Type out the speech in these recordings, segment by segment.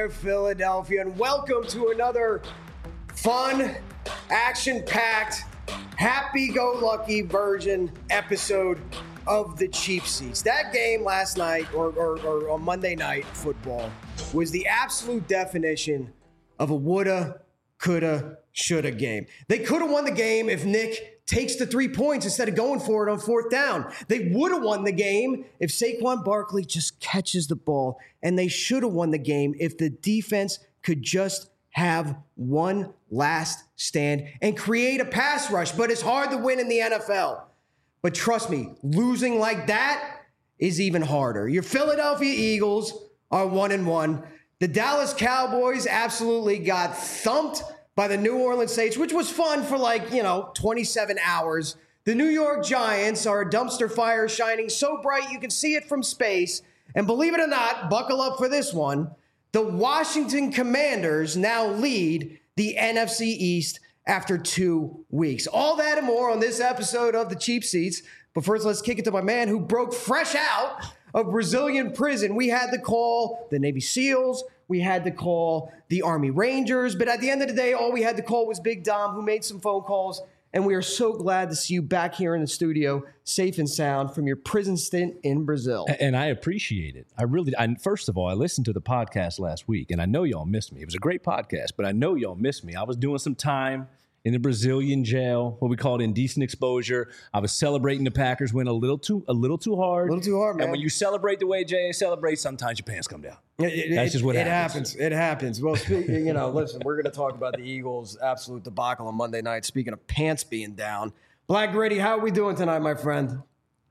there, Philadelphia, and welcome to another fun, action-packed, happy-go-lucky version episode of the Cheap Seats. That game last night, or on Monday Night Football, was the absolute definition of a woulda, coulda, shoulda game. They could have won the game if Nick takes the 3 points instead of going for it on fourth down. They would have won the game if Saquon Barkley just catches the ball, and they should have won the game if the defense could just have one last stand and create a pass rush. But it's hard to win in the NFL. But trust me, losing like that is even harder. Your Philadelphia Eagles are 1-1. The Dallas Cowboys absolutely got thumped by the New Orleans Saints, which was fun for 27 hours. The New York Giants are a dumpster fire shining so bright you can see it from space. And believe it or not, buckle up for this one, the Washington Commanders now lead the NFC East after 2 weeks. All that and more on this episode of the Cheap Seats. But first, let's kick it to my man who broke fresh out of Brazilian prison. We had to call the Navy SEALs. We had to call the Army Rangers. But at the end of the day, all we had to call was Big Dom, who made some phone calls. And we are so glad to see you back here in the studio, safe and sound from your prison stint in Brazil. And I appreciate it. First of all, I listened to the podcast last week, and I know y'all missed me. It was a great podcast, but I know y'all missed me. I was doing some time in the Brazilian jail, what we call it indecent exposure. I was celebrating the Packers win a little too hard. A little too hard, man. And when you celebrate the way Jay celebrates, sometimes your pants come down. That's just what happens. It happens. Well, listen, we're going to talk about the Eagles' absolute debacle on Monday night. Speaking of pants being down, Black Gritty, how are we doing tonight, my friend?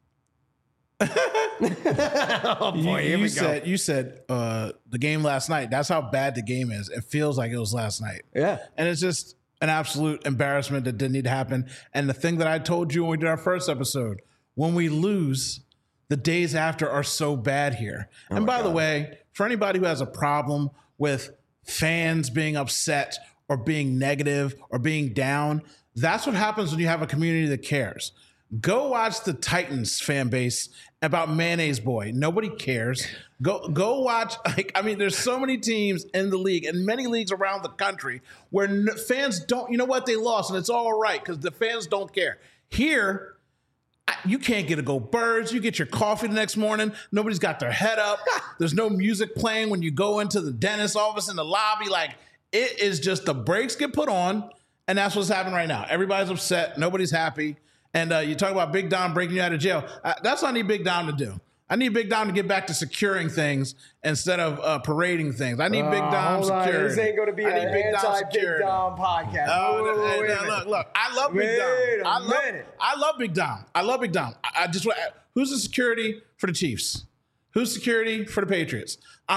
Oh boy, here we go. You said the game last night. That's how bad the game is. It feels like it was last night. Yeah, and it's just an absolute embarrassment that didn't need to happen. And the thing that I told you when we did our first episode, when we lose, the days after are so bad here. And by the way, for anybody who has a problem with fans being upset or being negative or being down, that's what happens when you have a community that cares. Go watch the Titans fan base about Mayonnaise Boy. Nobody cares. Go watch. There's so many teams in the league and many leagues around the country where fans don't, you know what, they lost and it's all right because the fans don't care. Here, you can't get to go birds. You get your coffee the next morning. Nobody's got their head up. There's no music playing when you go into the dentist's office in the lobby. It is just the brakes get put on, and that's what's happening right now. Everybody's upset. Nobody's happy. And you talk about Big Dom breaking you out of jail. That's what I need Big Dom to do. I need Big Dom to get back to securing things instead of parading things. I need Big Dom security. This ain't going to be an anti-Big Dom podcast. Look. I love Big Dom. I love Big Dom. I love Big Dom. Who's the security for the Chiefs? Who's security for the Patriots?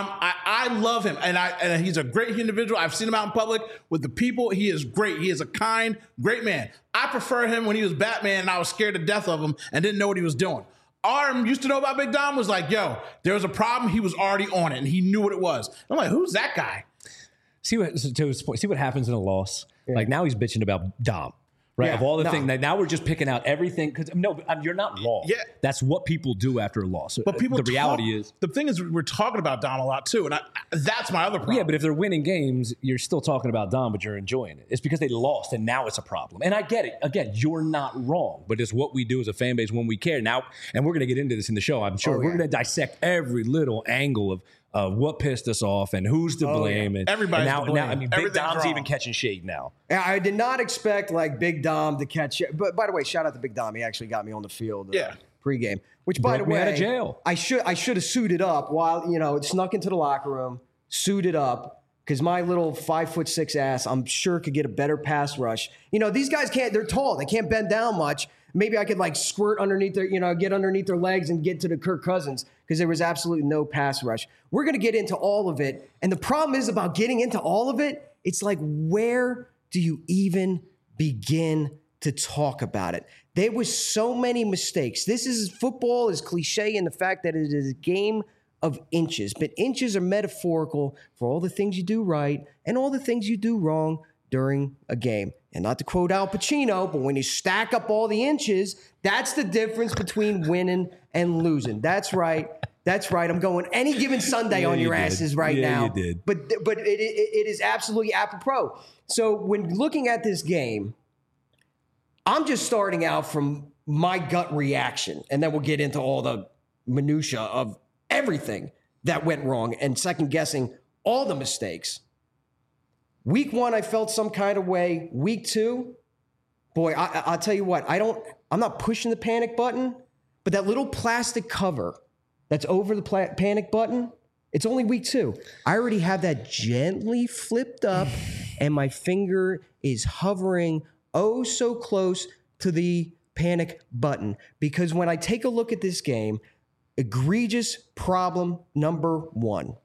I love him, and he's a great individual. I've seen him out in public with the people. He is great. He is a kind, great man. I prefer him when he was Batman, and I was scared to death of him and didn't know what he was doing. Arm used to know about Big Dom, was like, yo, there was a problem. He was already on it, and he knew what it was. I'm like, who's that guy? See what happens in a loss. Yeah. Like now he's bitching about Dom. Right. Yeah, of all the things, now we're just picking out everything. Because you're not wrong. Yeah. That's what people do after a loss. But the reality is, the thing is, we're talking about Dom a lot too, and that's my other problem. Yeah, but if they're winning games, you're still talking about Dom, but you're enjoying it. It's because they lost, and now it's a problem. And I get it. Again, you're not wrong, but it's what we do as a fan base when we care. Now, and we're going to get into this in the show. I'm sure we're going to dissect every little angle of what pissed us off and who's to blame. And everybody's to blame. Now, Big Dom's even catching shade now. I did not expect Big Dom to catch it. But by the way, shout out to Big Dom. He actually got me on the field pregame. Which, by the way, out of jail. I should have suited up while, snuck into the locker room, suited up, because my little 5'6" ass, I'm sure, could get a better pass rush. These guys they're tall. They can't bend down much. Maybe I could squirt underneath their, get underneath their legs and get to the Kirk Cousins, because there was absolutely no pass rush. We're going to get into all of it. And the problem is about getting into all of it, it's where do you even begin to talk about it? There was so many mistakes. Football is cliche in the fact that it is a game of inches, but inches are metaphorical for all the things you do right and all the things you do wrong during a game. And not to quote Al Pacino, but when you stack up all the inches, that's the difference between winning and losing. That's right. That's right. I'm going any given Sunday on your asses right now. Yeah, you did. But it is absolutely apropos. So when looking at this game, I'm just starting out from my gut reaction, and then we'll get into all the minutia of everything that went wrong and second guessing all the mistakes. Week 1, I felt some kind of way. Week 2, boy, I'll tell you what, I'm not pushing the panic button, but that little plastic cover that's over the panic button, it's only week 2. I already have that gently flipped up, and my finger is hovering oh so close to the panic button. Because when I take a look at this game, egregious problem number 1.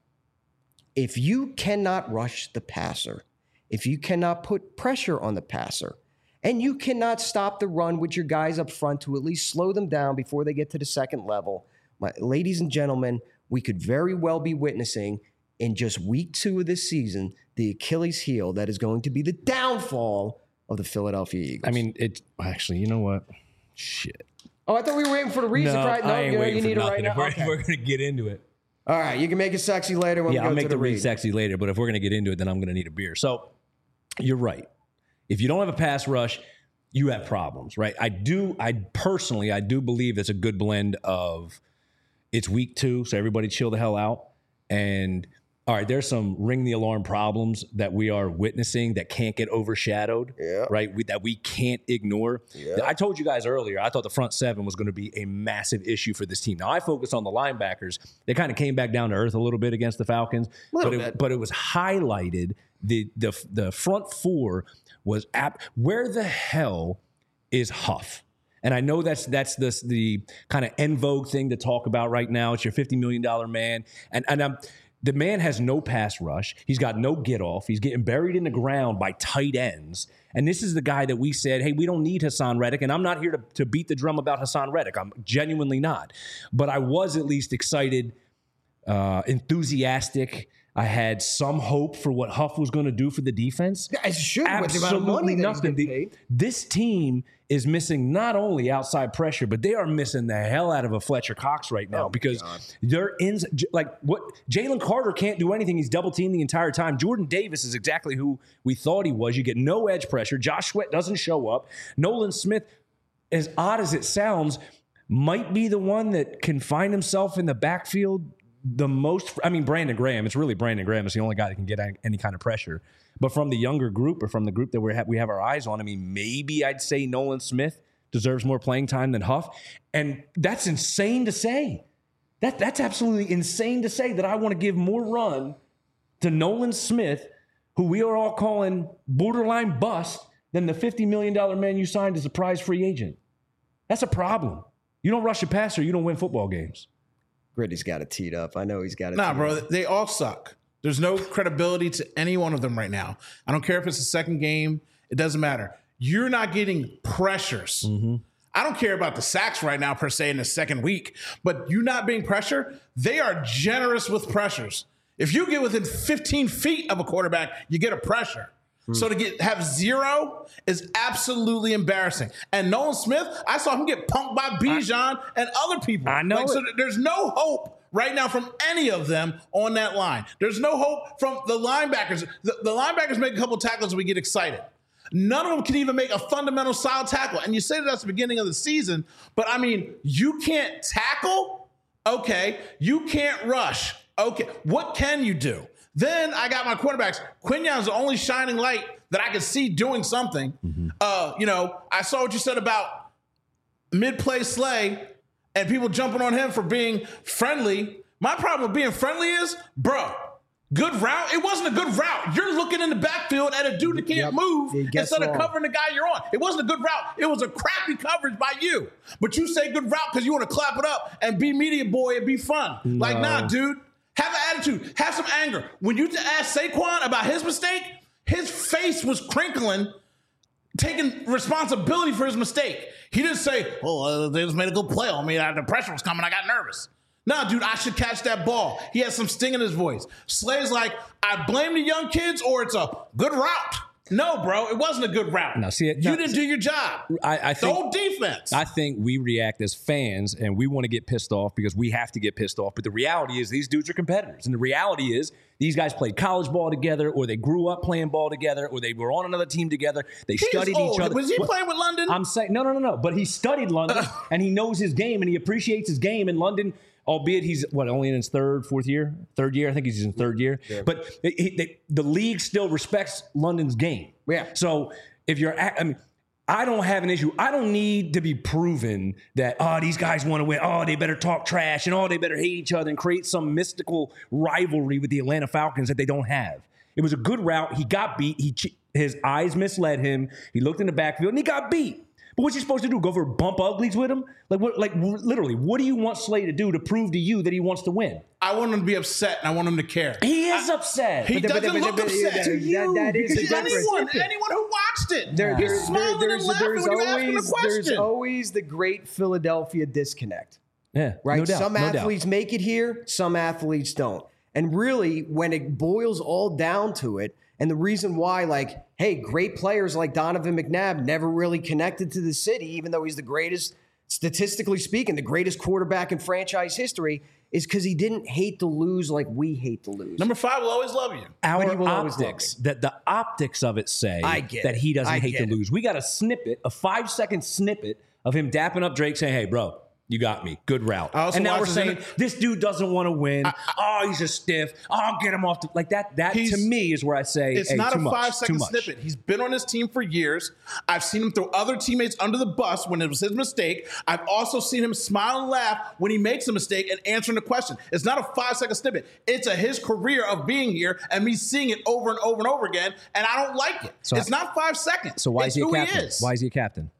If you cannot rush the passer, if you cannot put pressure on the passer, and you cannot stop the run with your guys up front to at least slow them down before they get to the second level, ladies and gentlemen, we could very well be witnessing in just week 2 of this season the Achilles heel that is going to be the downfall of the Philadelphia Eagles. I mean, actually, you know what? Shit. Oh, I thought we were waiting for the reason. No, right? I ain't waiting you need for it nothing. right now. We're going to get into it. All right, you can make it sexy later when we go I'll make to the read. read sexy later, but if we're going to get into it, then I'm going to need a beer. So you're right. If you don't have a pass rush, you have problems, right? I personally believe it's a good blend of it's week 2, so everybody chill the hell out. And all right, there's some ring the alarm problems that we are witnessing that can't get overshadowed, right? That we can't ignore. Yeah. I told you guys earlier, I thought the front 7 was going to be a massive issue for this team. Now, I focused on the linebackers. They kind of came back down to earth a little bit against the Falcons, but it was highlighted. The front 4 was where the hell is Huff? And I know that's the kind of en vogue thing to talk about right now. It's your $50 million man. And the man has no pass rush. He's got no get off. He's getting buried in the ground by tight ends. And this is the guy that we said, hey, we don't need Hassan Reddick. And I'm not here to beat the drum about Hassan Reddick. I'm genuinely not. But I was at least excited, enthusiastic. I had some hope for what Huff was going to do for the defense. Yeah, it should. Absolutely nothing. This team is missing not only outside pressure, but they are missing the hell out of a Fletcher Cox right now because they're in what Jalen Carter can't do anything. He's double teamed the entire time. Jordan Davis is exactly who we thought he was. You get no edge pressure. Josh Sweat doesn't show up. Nolan Smith, as odd as it sounds, might be the one that can find himself in the backfield the most. I mean, Brandon Graham. It's really Brandon Graham is the only guy that can get any kind of pressure. But from the younger group or from the group that we have our eyes on, I mean, maybe I'd say Nolan Smith deserves more playing time than Huff. And that's insane to say. That's absolutely insane to say that I want to give more run to Nolan Smith, who we are all calling borderline bust, than the $50 million man you signed as a prize free agent. That's a problem. You don't rush a passer, you don't win football games. Gritty's got it teed up. I know he's got it. Nah, bro, they all suck. There's no credibility to any one of them right now. I don't care if it's the second game. It doesn't matter. You're not getting pressures. Mm-hmm. I don't care about the sacks right now, per se, in the second week. But you not being pressured, they are generous with pressures. If you get within 15 feet of a quarterback, you get a pressure. So to have 0 is absolutely embarrassing. And Nolan Smith, I saw him get punked by Bijan and other people. I know. So there's no hope right now from any of them on that line. There's no hope from the linebackers. The linebackers make a couple tackles and we get excited. None of them can even make a fundamental solid tackle. And you say that's the beginning of the season, but I mean, you can't tackle? Okay. You can't rush? Okay. What can you do? Then I got my quarterbacks. Quinyon's the only shining light that I can see doing something. Mm-hmm. I saw what you said about mid-play Slay and people jumping on him for being friendly. My problem with being friendly is, bro, good route. It wasn't a good route. You're looking in the backfield at a dude that can't move instead of covering the guy you're on. It wasn't a good route. It was a crappy coverage by you. But you say good route because you want to clap it up and be media boy and be fun. No. Like, nah, dude. Have an attitude. Have some anger. When you asked Saquon about his mistake, his face was crinkling, taking responsibility for his mistake. He didn't say, they just made a good play on me. The pressure was coming. I got nervous. No, dude, I should catch that ball. He has some sting in his voice. Slay's like, I blame the young kids or it's a good route. No, bro, it wasn't a good route. No, see, you didn't do your job. I think the whole defense. I think we react as fans, and we want to get pissed off because we have to get pissed off. But the reality is, these dudes are competitors, and the reality is, these guys played college ball together, or they grew up playing ball together, or they were on another team together. They studied each other. Was he playing with London? I'm saying no. But he studied London, and he knows his game, and he appreciates his game in London. Albeit he's only in his third year. I think he's in third year. Yeah. But the league still respects London's game. Yeah. So if you're, I don't have an issue. I don't need to be proven that these guys want to win. They better talk trash and they better hate each other and create some mystical rivalry with the Atlanta Falcons that they don't have. It was a good route. He got beat. His eyes misled him. He looked in the backfield and he got beat. But what's he supposed to do? Go for bump uglies with him? Literally, what do you want Slay to do to prove to you that he wants to win? I want him to be upset, and I want him to care. He is upset. He doesn't look upset to you. That is because anyone who watched it, he's smiling and laughing when you ask him the question. There's always the great Philadelphia disconnect. Yeah, right? No doubt, some athletes make it here, some athletes don't. And really, when it boils all down to it, and the reason why, great players like Donovan McNabb never really connected to the city, even though he's the greatest, statistically speaking, the greatest quarterback in franchise history, is because he didn't hate to lose like we hate to lose. Number 5 will always love you. Our optics, that the optics of it say that he doesn't hate to lose. We got a 5-second snippet of him dapping up Drake saying, hey, bro, you got me. Good route. And now we're saying this dude doesn't want to win. He's a stiff. Get him off. That to me is where I say it's not a 5-second snippet. He's been on his team for years. I've seen him throw other teammates under the bus when it was his mistake. I've also seen him smile and laugh when he makes a mistake and answering the question. It's not a 5-second snippet. It's his career of being here and me seeing it over and over and over again, and I don't like it. So it's not 5 seconds. So why is he a captain? Why is he a captain?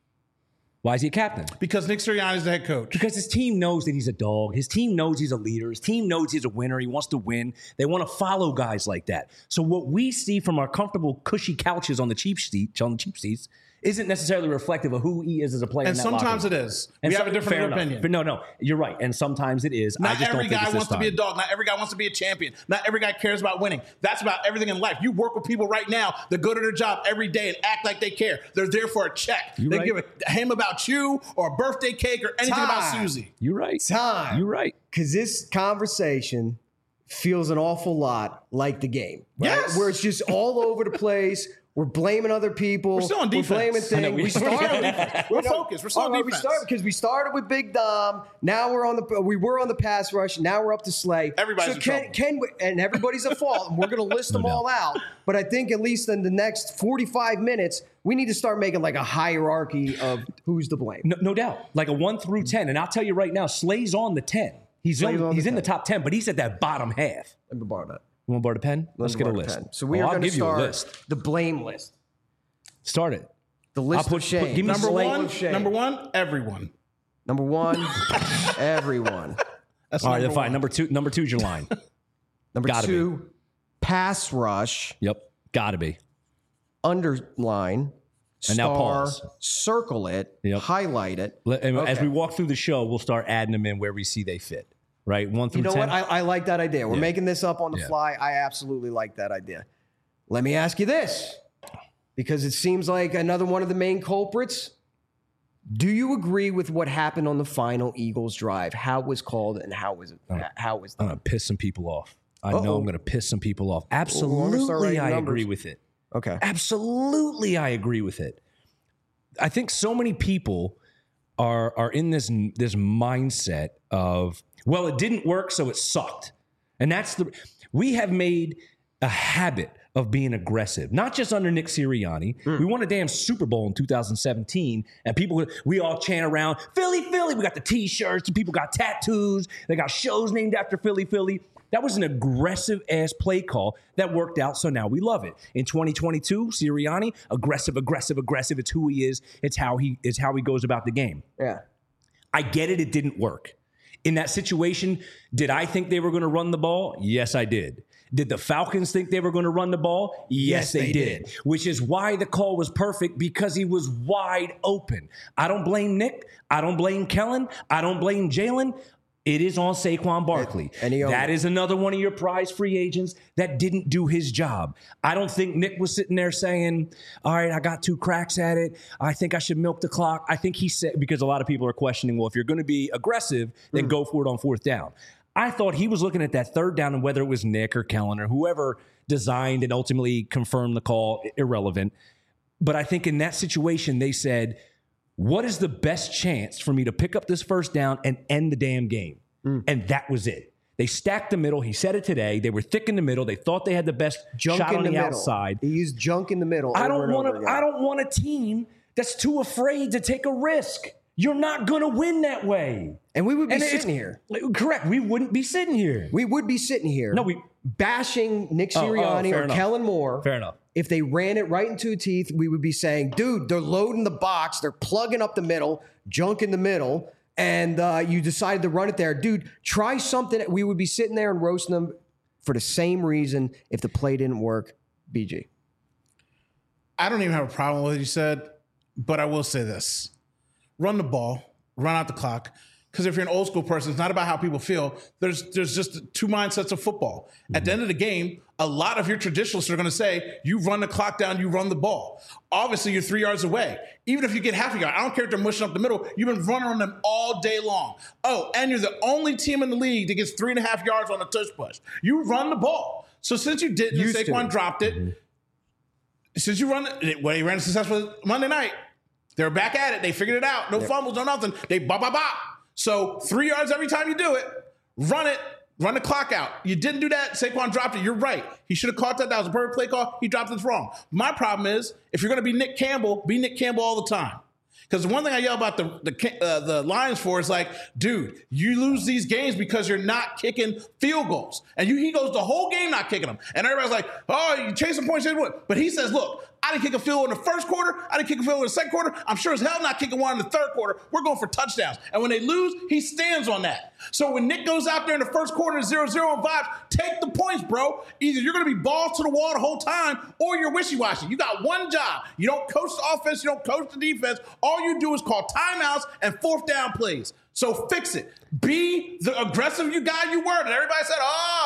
Why is he a captain? Because Nick Sirianni is the head coach. Because his team knows that he's a dog. His team knows he's a leader. His team knows he's a winner. He wants to win. They want to follow guys like that. So what we see from our comfortable, cushy couches on the cheap seats, isn't necessarily reflective of who he is as a player. And sometimes it is. We have a different opinion. But no, you're right. And sometimes it is. Not every guy wants to be a dog. Not every guy wants to be a champion. Not every guy cares about winning. That's about everything in life. You work with people right now that go to their job every day and act like they care. They're there for a check. They give a ham about you or a birthday cake or anything about Susie. You're right. You're right. Because this conversation feels an awful lot like the game. Right? Yes. Where it's just all over the place. We're blaming other people. We're still on defense. We're blaming things. We started. We're focused. We're still on defense. We started with Big Dom. Now we were on the pass rush. Now we're up to Slay. Everybody's in trouble. And everybody's at fault. And we're going to list them all out. But I think at least in the next 45 minutes, we need to start making a hierarchy of who's to blame. No doubt. Like a 1 through 10. And I'll tell you right now, Slay's on the 10. He's in the top 10, but he's at that bottom half. Let me borrow that. You want to borrow the pen? Let's get a list. So we are going to start the blame list. Start it. The list of shame. Give me number one, everyone. Number 1, everyone. That's all right, then fine. Number two is your line. Number 2, pass rush. Yep, gotta be. Underline. And now pause. Circle it. Yep. Highlight it. As we walk through the show, we'll start adding them in where we see they fit. Right, 1 through 10. You know what? I like that idea. We're making this up on the fly. I absolutely like that idea. Let me ask you this, because it seems like another one of the main culprits. Do you agree with what happened on the final Eagles drive? How it was called and how was it? How was that? I'm gonna piss some people off. I know I'm gonna piss some people off. Absolutely, I agree with it. Okay. Absolutely, I agree with it. I think so many people are in this mindset of, well, it didn't work, so it sucked. And we have made a habit of being aggressive, not just under Nick Sirianni. We won a damn Super Bowl in 2017, and we all chant around, Philly, Philly. We got the T-shirts, and people got tattoos. They got shows named after Philly, Philly. That was an aggressive-ass play call that worked out, so now we love it. In 2022, Sirianni, aggressive. It's who he is. It's how he goes about the game. Yeah. I get it. It didn't work. In that situation, did I think they were going to run the ball? Yes, I did. Did the Falcons think they were going to run the ball? Yes, they did. Which is why the call was perfect, because he was wide open. I don't blame Nick. I don't blame Kellen. I don't blame Jalen. It is on Saquon Barkley. That is another one of your prize free agents that didn't do his job. I don't think Nick was sitting there saying, all right, I got 2 cracks at it. I think I should milk the clock. I think he said, because a lot of people are questioning, well, if you're going to be aggressive, then go for it on 4th down. I thought he was looking at that 3rd down, and whether it was Nick or Kellen or whoever designed and ultimately confirmed the call, irrelevant. But I think in that situation, they said, what is the best chance for me to pick up this 1st down and end the damn game? And that was it. They stacked the middle. He said it today. They were thick in the middle. They thought they had the best shot on the outside. He used junk in the middle. I don't want a team that's too afraid to take a risk. You're not going to win that way. And we would be sitting here. Correct. We wouldn't be sitting here. We would be sitting here. No, bashing Nick Sirianni or Kellen Moore. Fair enough. If they ran it right into teeth, we would be saying, dude, they're loading the box. They're plugging up the middle, junk in the middle, and you decided to run it there. Dude, try something. We would be sitting there and roasting them for the same reason if the play didn't work. BG. I don't even have a problem with what you said, but I will say this. Run the ball, run out the clock. Because if you're an old school person, it's not about how people feel. There's just 2 mindsets of football. At the end of the game, a lot of your traditionalists are going to say, you run the clock down, you run the ball. Obviously, you're 3 yards away. Even if you get half a yard, I don't care if they're mushing up the middle. You've been running on them all day long. Oh, and you're the only team in the league that gets 3.5 yards on a tush push. You run the ball. So since you didn't, Saquon dropped it. Since you run it, well, he ran successful Monday night. They're back at it. They figured it out. No fumbles, no nothing. They bop. So 3 yards every time you do it. Run the clock out. You didn't do that. Saquon dropped it. You're right. He should have caught that. That was a perfect play call. He dropped it wrong. My problem is, if you're going to be Nick Campbell, be Nick Campbell all the time. Because the one thing I yell about the Lions for is like, dude, you lose these games because you're not kicking field goals. And he goes the whole game not kicking them. And everybody's like, oh, you chasing points. But he says, look, I didn't kick a field goal in the 1st quarter. I didn't kick a field goal in the 2nd quarter. I'm sure as hell not kicking one in the 3rd quarter. We're going for touchdowns. And when they lose, he stands on that. So when Nick goes out there in the 1st quarter 0-0 and vibes, take the points, bro. Either you're going to be balls to the wall the whole time or you're wishy-washy. You got one job. You don't coach the offense. You don't coach the defense. All you do is call timeouts and 4th down plays. So fix it. Be the aggressive guy you were. And everybody said,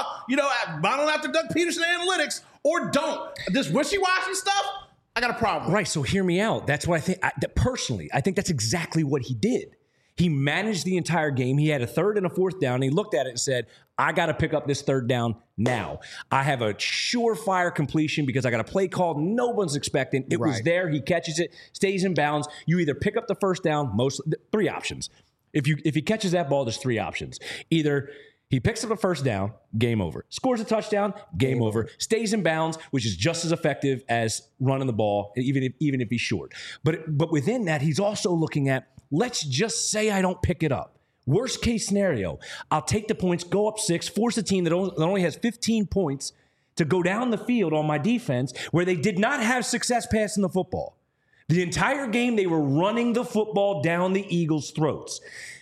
modeling after Doug Peterson analytics, or don't. This wishy-washy stuff, I got a problem. Right, so hear me out. That's what I think. Personally, I think that's exactly what he did. He managed the entire game. He had a 3rd and a 4th down. And he looked at it and said, I got to pick up this 3rd down now. I have a surefire completion because I got a play called no one's expecting. It was there. He catches it, stays in bounds. You either pick up the 1st down, 3 options. If he catches that ball, there's 3 options. Either he picks up a 1st down, game over. Scores a touchdown, game over. Stays in bounds, which is just as effective as running the ball, even if he's short. But within that, he's also looking at, let's just say I don't pick it up. Worst case scenario, I'll take the points, go up 6, force a team that only has 15 points to go down the field on my defense where they did not have success passing the football. The entire game, they were running the football down the Eagles' throats.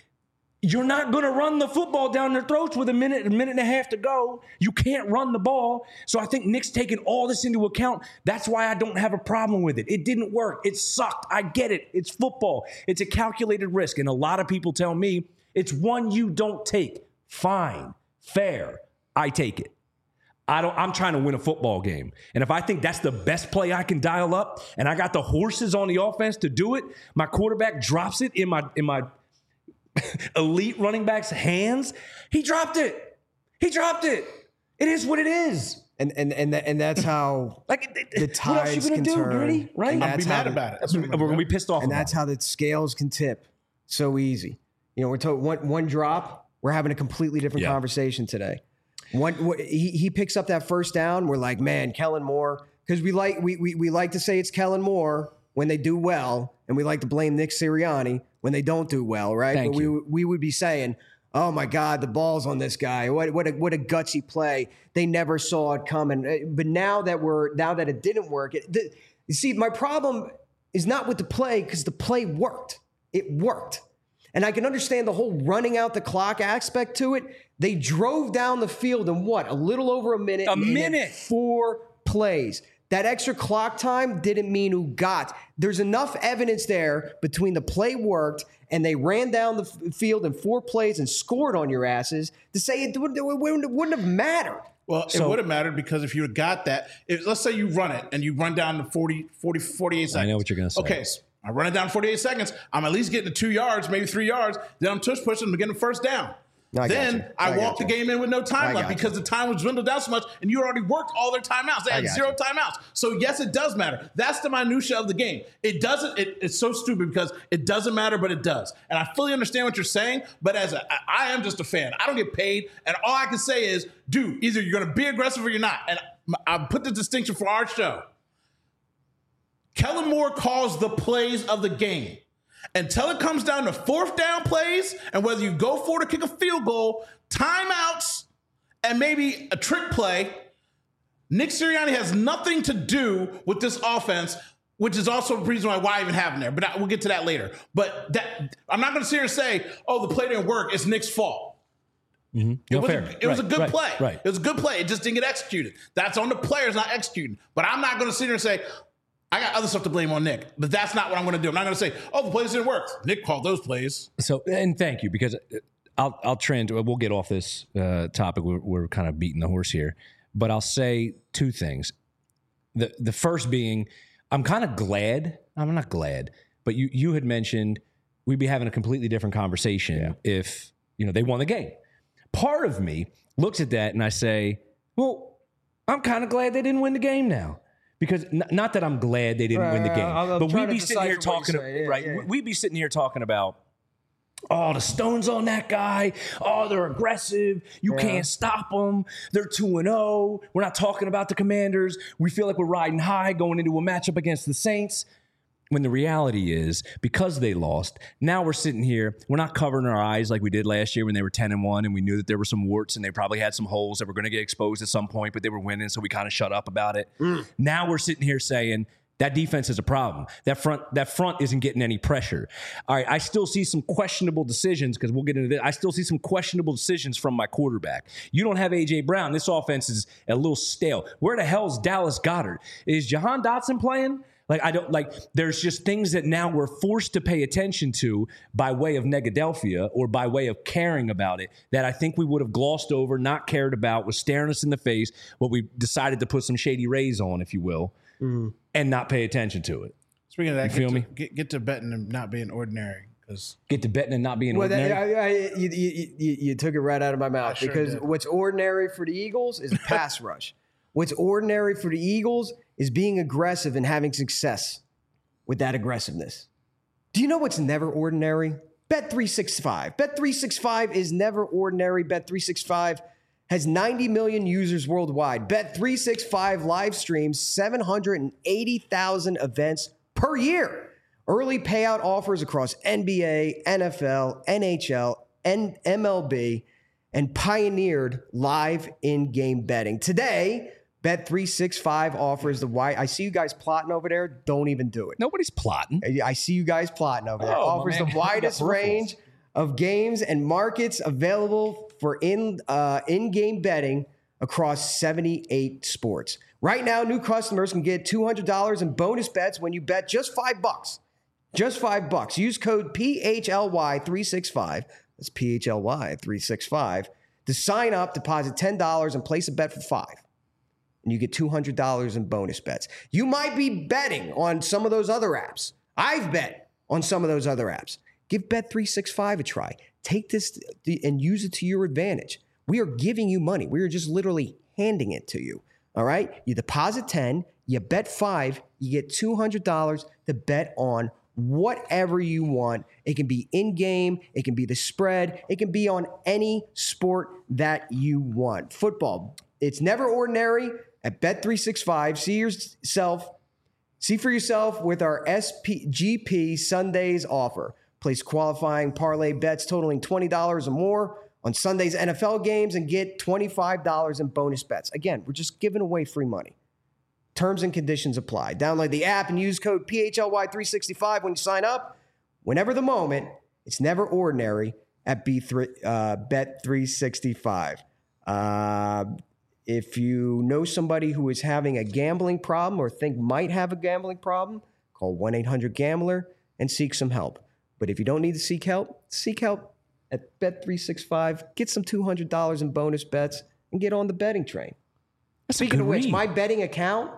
You're not going to run the football down their throats with a minute and a half to go. You can't run the ball. So I think Nick's taken all this into account. That's why I don't have a problem with it. It didn't work. It sucked. I get it. It's football. It's a calculated risk. And a lot of people tell me it's one you don't take. Fine. Fair. I take it. I'm trying to win a football game. And if I think that's the best play I can dial up and I got the horses on the offense to do it, my quarterback drops it in my elite running back's hands. He dropped it. It is what it is. And that's how the tides can turn. Gritty, right? I'll be mad about it. We're going to be pissed off. And that's how the scales can tip so easy. We're talking one drop. We're having a completely different conversation today. He picks up that 1st down. We're like, man, Kellen Moore, because we like to say it's Kellen Moore when they do well, and we like to blame Nick Sirianni when they don't do well, right? But we would be saying, oh my God, the ball's on this guy. What a gutsy play. They never saw it coming. But now that it didn't work, you see, my problem is not with the play because the play worked. It worked. And I can understand the whole running out the clock aspect to it. They drove down the field in a little over a minute. 4 4 plays. That extra clock time didn't mean who got. There's enough evidence there between the play worked and they ran down the field in 4 plays and scored on your asses to say it wouldn't have mattered. Well, it would have mattered because if you had got that, let's say you run it and you run down to 48 seconds. I know what you're going to say. Okay, so I run it down 48 seconds. I'm at least getting to 2 yards, maybe 3 yards. Then I'm tush pushing and getting the first down. I walked the game in with no time left because the time was dwindled down so much and you already worked all their timeouts. They had 0 timeouts. So, yes, it does matter. That's the minutia of the game. It doesn't. It's so stupid because it doesn't matter, but it does. And I fully understand what you're saying, but I am just a fan. I don't get paid. And all I can say is, dude, either you're going to be aggressive or you're not. And I put the distinction for our show. Kellen Moore calls the plays of the game. Until it comes down to 4th down plays and whether you go for it or kick a field goal, timeouts, and maybe a trick play, Nick Sirianni has nothing to do with this offense, which is also the reason why I even have him there. But we'll get to that later. But I'm not going to sit here and say, oh, the play didn't work. It's Nick's fault. Mm-hmm. It was a good play. Right. It was a good play. It just didn't get executed. That's on the players not executing. But I'm not going to sit here and say, I got other stuff to blame on Nick, but that's not what I'm going to do. I'm not going to say, oh, the plays didn't work. Nick called those plays. So, and thank you, because I'll trend. We'll get off this topic. We're kind of beating the horse here, but I'll say 2 things. The first being, I'm kind of glad. I'm not glad, but you had mentioned we'd be having a completely different conversation if they won the game. Part of me looks at that and I say, well, I'm kind of glad they didn't win the game now. Because not that I'm glad they didn't win the game, but we'd be sitting here talking, we'd be sitting here talking about, oh, the stone's on that guy. Oh, they're aggressive. You can't stop them. They're 2-0. We're not talking about the Commanders. We feel like we're riding high going into a matchup against the Saints. When the reality is, because they lost, now we're sitting here, we're not covering our eyes like we did last year when they were 10-1 and we knew that there were some warts and they probably had some holes that were going to get exposed at some point, but they were winning, so we kind of shut up about it. Now we're sitting here saying that defense is a problem. That front isn't getting any pressure. All right, I still see some questionable decisions, because we'll get into this. I still see some questionable decisions from my quarterback. You don't have A.J. Brown. This offense is a little stale. Where the hell's Dallas Goedert? Is Jahan Dotson playing? There's just things that now we're forced to pay attention to by way of Negadelphia or by way of caring about it that I think we would have glossed over, not cared about, was staring us in the face, what we decided to put some shady rays on, if you will, and not pay attention to it. Speaking of that, get to betting and not being ordinary. Get to betting and not being ordinary? You took it right out of my mouth, because what's ordinary for the Eagles is a pass rush. What's ordinary for the Eagles is being aggressive and having success with that aggressiveness. Do you know what's never ordinary? Bet365. Bet365 is never ordinary. Bet365 has 90 million users worldwide. Bet365 live streams 780,000 events per year. Early payout offers across NBA, NFL, NHL, and MLB, and pioneered live in-game betting. Today, Bet365 offers I see you guys plotting over there. Don't even do it. Nobody's plotting. I see you guys plotting over there. Offers the widest range of games and markets available for in-game betting across 78 sports. Right now, new customers can get $200 in bonus bets when you bet just $5. Just $5. Use code PHLY365. That's PHLY365 to sign up, deposit $10, and place a bet for $5. And you get $200 in bonus bets. You might be betting on some of those other apps. I've bet on some of those other apps. Give Bet365 a try. Take this and use it to your advantage. We are giving you money. We are just literally handing it to you. All right? You deposit 10, you bet 5, you get $200 to bet on whatever you want. It can be in-game, it can be the spread, it can be on any sport that you want. Football, it's never ordinary at Bet365. See for yourself with our SGP Sundays offer. Place qualifying parlay bets totaling $20 or more on Sunday's NFL games and get $25 in bonus bets. Again, we're just giving away free money. Terms and conditions apply. Download the app and use code PHLY365 when you sign up. Whenever the moment, it's never ordinary at Bet365. If you know somebody who is having a gambling problem or think might have a gambling problem, call 1-800-GAMBLER and seek some help. But if you don't need to seek help at Bet365. Get some $200 in bonus bets and get on the betting train. Speaking of which, my betting account,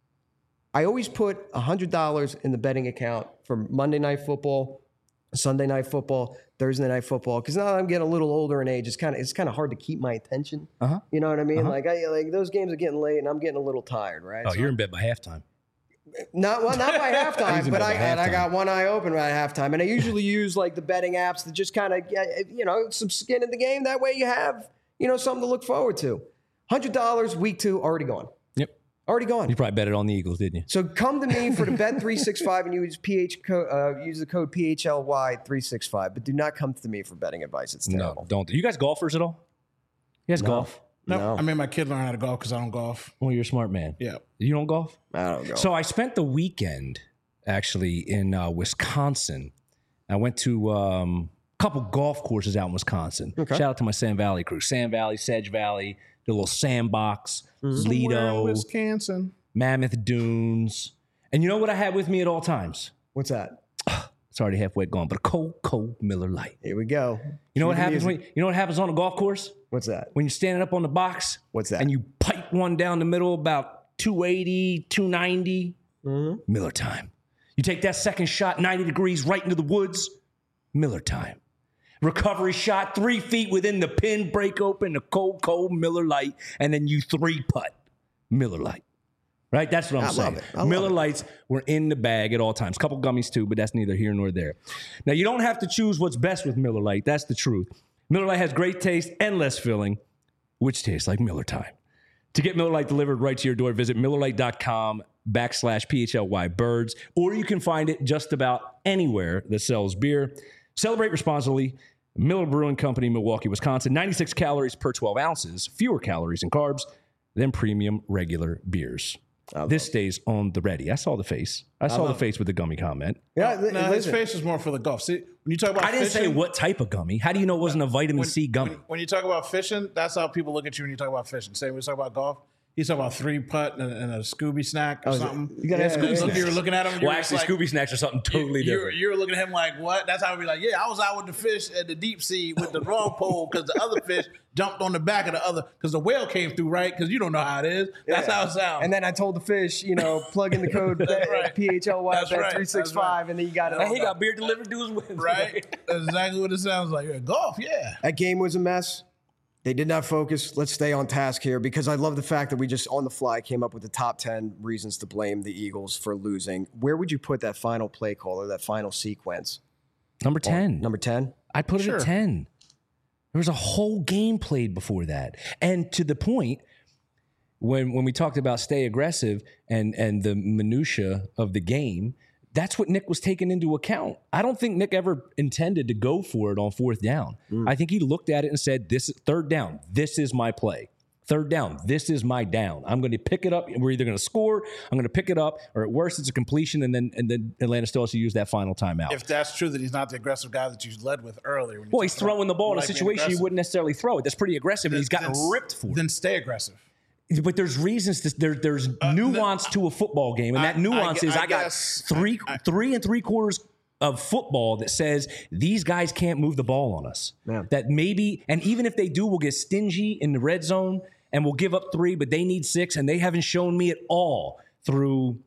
I always put $100 in the betting account for Monday Night Football, Sunday Night Football, Thursday Night Football. Because now that I'm getting a little older in age, it's kind of hard to keep my attention. You know what I mean? Like those games are getting late, and I'm getting a little tired, right? Oh, so you're in bed by halftime. Not by halftime, but I got one eye open by halftime, and I usually use like the betting apps to just kind of some skin in the game. That way you have something to look forward to. $100 week 2 already gone. Yep, already gone. You probably bet it on the Eagles, didn't you? So come to me for the Bet365 and use use the code PHLY365, but do not come to me for betting advice. It's terrible. No, don't. You guys golfers at all? You guys golf? No. I made my kid learn how to golf because I don't golf. Well, you're a smart man. Yeah. You don't golf? I don't golf. So I spent the weekend actually in Wisconsin. I went to a couple golf courses out in Wisconsin. Okay. Shout out to my Sand Valley crew. Sand Valley, Sedge Valley, the little sandbox, Lido, Wisconsin, Mammoth Dunes. And you know what I had with me at all times? What's that? It's already halfway gone, but a cold Miller Lite. Here we go. You know what happens what happens on a golf course? What's that? When you're standing up on the box. What's that? And you pipe one down the middle about 280, 290. Miller time. You take that second shot 90 degrees right into the woods. Miller time. Recovery shot 3 feet within the pin, break open, a cold Miller Lite, and then you 3-putt. Miller Lite. Right? That's what I'm saying. Miller Lights were in the bag at all times. A couple gummies too, but that's neither here nor there. Now, you don't have to choose what's best with Miller Lite. That's the truth. Miller Lite has great taste and less filling, which tastes like Miller time. To get Miller Lite delivered right to your door, visit MillerLite.com/PHLY-Birds, or you can find it just about anywhere that sells beer. Celebrate responsibly. Miller Brewing Company, Milwaukee, Wisconsin. 96 calories per 12 ounces, fewer calories and carbs than premium regular beers. This stays on the ready. I saw the face. I saw the face with the gummy comment. Yeah, his face is more for the golf. See, when you talk about I didn't say what type of gummy. How do you know it wasn't a vitamin C gummy? When you talk about fishing, that's how people look at you when you talk about fishing. Same when you talk about golf. He's talking about 3-putt and a Scooby snack or something. You got to ask Scooby snacks. You were looking at him. Well, actually, Scooby snacks are something totally different. You were looking at him like, what? That's how we'd be like, yeah, I was out with the fish at the deep sea with the wrong pole because the other fish jumped on the back of the other because the whale came through, right? Because you don't know how it is. That's how it sounds. And then I told the fish, plug in the code PHLY365, and then you got it. And he got beer delivered to his window. Right? That's exactly what it sounds like. Yeah, golf, yeah. That game was a mess. They did not focus. Let's stay on task here because I love the fact that we just on the fly came up with the top 10 reasons to blame the Eagles for losing. Where would you put that final play call or that final sequence? Number 10. Number 10? I'd put it at 10. There was a whole game played before that. And to the point, when we talked about stay aggressive and the minutia of the game, that's what Nick was taking into account. I don't think Nick ever intended to go for it on 4th down. I think he looked at it and said, "This is 3rd down. This is my play. 3rd down. This is my down. I'm going to pick it up. We're either going to score. I'm going to pick it up, or at worst, it's a completion." And then Atlanta still has to use that final timeout. If that's true, that he's not the aggressive guy that you led with earlier. Well, he's throwing the ball in a situation you wouldn't necessarily throw it. That's pretty aggressive, and he's gotten ripped for it. Then stay aggressive. But there's reasons. There's nuance to a football game, and that nuance is I got 3 3/4 of football that says these guys can't move the ball on us. Yeah. That maybe, and even if they do, we'll get stingy in the red zone and we'll give up 3, but they need 6, and they haven't shown me at all through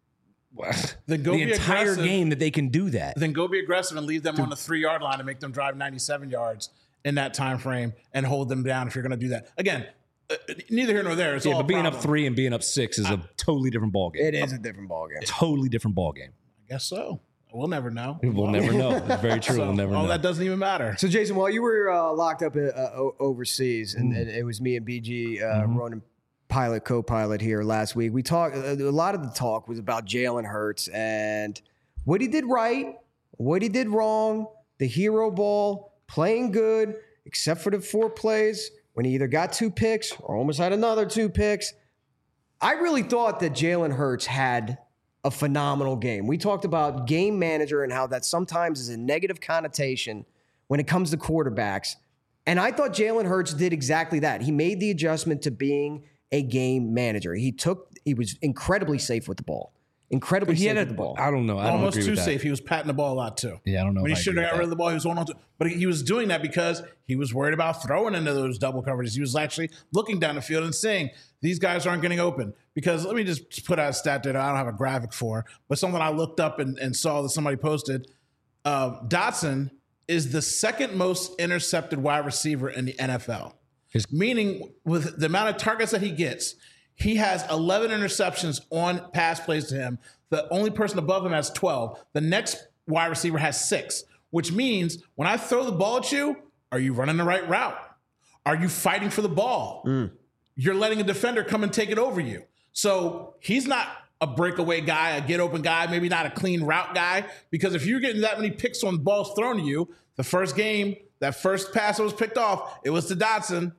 the entire game that they can do that. Then go be aggressive and leave them on the 3-yard line and make them drive 97 yards in that time frame and hold them down if you're going to do that. Again, neither here nor there. It's all but being up 3 and being up 6 is a totally different ballgame. It is a different ballgame. Totally different ballgame. I guess so. We'll never know. We'll never know. It's very true. We'll never know. That doesn't even matter. So, Jason, while you were locked up overseas, and it was me and BG, Ronan pilot, co-pilot here last week, we talked. A lot of the talk was about Jalen Hurts and what he did right, what he did wrong, the hero ball, playing good, except for the 4 plays when he either got 2 picks or almost had another 2 picks. I really thought that Jalen Hurts had a phenomenal game. We talked about game manager and how that sometimes is a negative connotation when it comes to quarterbacks. And I thought Jalen Hurts did exactly that. He made the adjustment to being a game manager. He was incredibly safe with the ball. Incredibly safe with the ball. I don't know. I don't Almost agree too with that. safe. He was patting the ball a lot too. Yeah, I don't know. When he if I should agree have got with rid of that. the ball, he was holding on to. But he was doing that because he was worried about throwing into those double coverages. He was actually looking down the field and saying, these guys aren't getting open. Because let me just put out a stat that I don't have a graphic for, but something I looked up and saw that somebody posted. Dotson is the second most intercepted wide receiver in the NFL. Meaning, with the amount of targets that he gets, he has 11 interceptions on pass plays to him. The only person above him has 12. The next wide receiver has 6, which means when I throw the ball at you, are you running the right route? Are you fighting for the ball? You're letting a defender come and take it over you. So he's not a breakaway guy, a get open guy, maybe not a clean route guy, because if you're getting that many picks on balls thrown to you, the first game, that first pass that was picked off, it was to Dotson.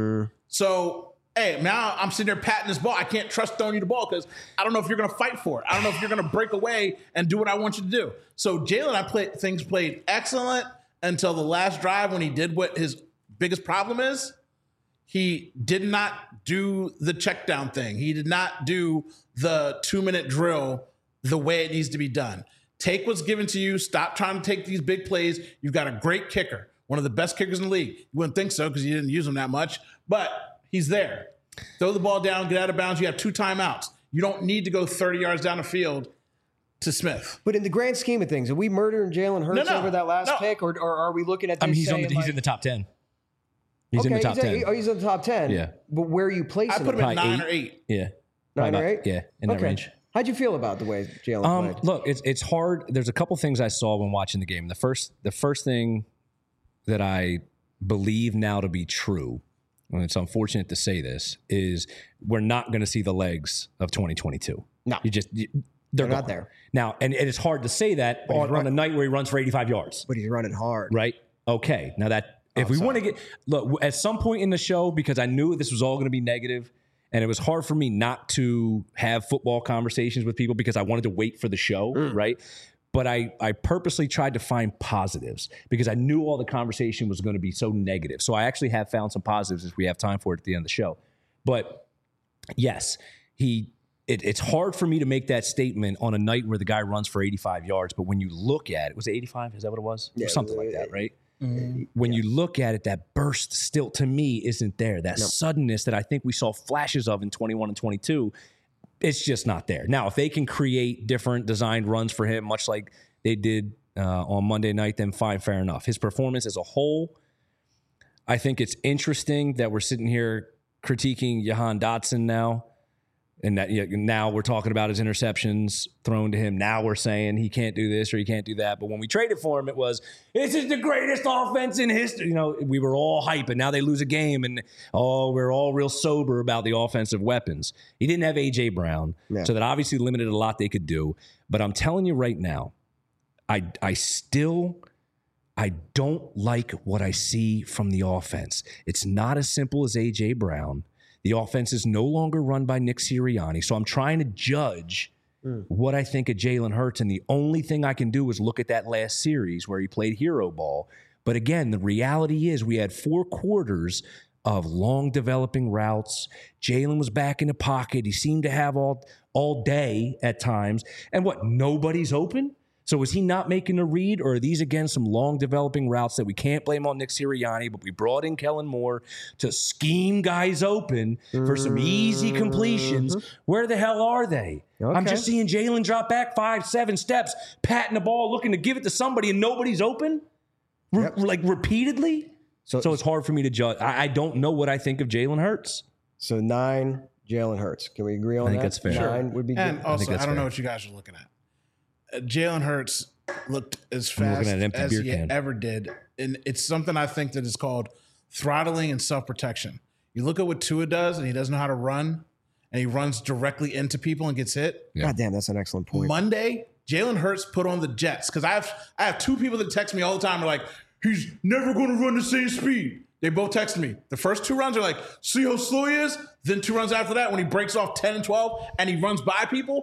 So, hey, now I'm sitting there patting this ball. I can't trust throwing you the ball because I don't know if you're going to fight for it. I don't know if you're going to break away and do what I want you to do. So Jalen, things played excellent until the last drive when he did what his biggest problem is. He did not do the check down thing. He did not do the 2-minute drill the way it needs to be done. Take what's given to you. Stop trying to take these big plays. You've got a great kicker, one of the best kickers in the league. You wouldn't think so because you didn't use him that much, but he's there. Throw the ball down, get out of bounds. You have 2 timeouts. You don't need to go 30 yards down the field to Smith. But in the grand scheme of things, are we murdering Jalen Hurts over that last pick, or are we looking at this? I mean, he's saying in the top 10. He's in the top 10. He's in the top 10. Yeah. But where are you placing I put him him? at 9 or 8. Yeah. 9 or 8? Yeah, in that range. How'd you feel about the way Jalen played? Look, it's hard. There's a couple things I saw when watching the game. The first thing that I believe now to be true, and it's unfortunate to say this, is we're not going to see the legs of 2022. No. They're not there. Now, and it's hard to say that on a night where he runs for 85 yards. But he's running hard. Right? Okay. Now if we want to look, at some point in the show, because I knew this was all going to be negative, and it was hard for me not to have football conversations with people because I wanted to wait for the show, right? But I purposely tried to find positives because I knew all the conversation was going to be so negative. So I actually have found some positives if we have time for it at the end of the show. But yes, it's hard for me to make that statement on a night where the guy runs for 85 yards. But when you look at it, was it 85? Is that what it was? Yeah, or something like that, right? When you look at it, that burst still, to me, isn't there. That suddenness that I think we saw flashes of in 21 and 22, it's just not there. Now, if they can create different designed runs for him, much like they did on Monday night, then fine, fair enough. His performance as a whole, I think it's interesting that we're sitting here critiquing Jahan Dotson now. And that now we're talking about his interceptions thrown to him. Now we're saying he can't do this or he can't do that. But when we traded for him, it was, this is the greatest offense in history. You know, we were all hype, and now they lose a game, and we're all real sober about the offensive weapons. He didn't have A.J. Brown, so that obviously limited a lot they could do. But I'm telling you right now, I don't like what I see from the offense. It's not as simple as A.J. Brown. The offense is no longer run by Nick Sirianni. So I'm trying to judge what I think of Jalen Hurts. And the only thing I can do is look at that last series where he played hero ball. But again, the reality is we had 4 quarters of long developing routes. Jalen was back in the pocket. He seemed to have all day at times. And nobody's open? So is he not making a read, or are these, again, some long developing routes that we can't blame on Nick Sirianni, but we brought in Kellen Moore to scheme guys open for some easy completions? Where the hell are they? Okay. I'm just seeing Jalen drop back 5-7 steps, patting the ball, looking to give it to somebody, and nobody's open? Like repeatedly? So it's hard for me to judge. I don't know what I think of Jalen Hurts. So 9, Jalen Hurts. Can we agree on that? I think that's fair. 9 would be good. And also, I don't know what you guys are looking at. Jalen Hurts looked as fast as he ever did. And it's something I think that is called throttling and self-protection. You look at what Tua does, and he doesn't know how to run, and he runs directly into people and gets hit. Yeah. God damn, that's an excellent point. Monday, Jalen Hurts put on the Jets, because I have 2 people that text me all the time. They're like, he's never going to run the same speed. They both texted me. The first 2 runs are like, see how slow he is? Then 2 runs after that, when he breaks off 10 and 12 and he runs by people,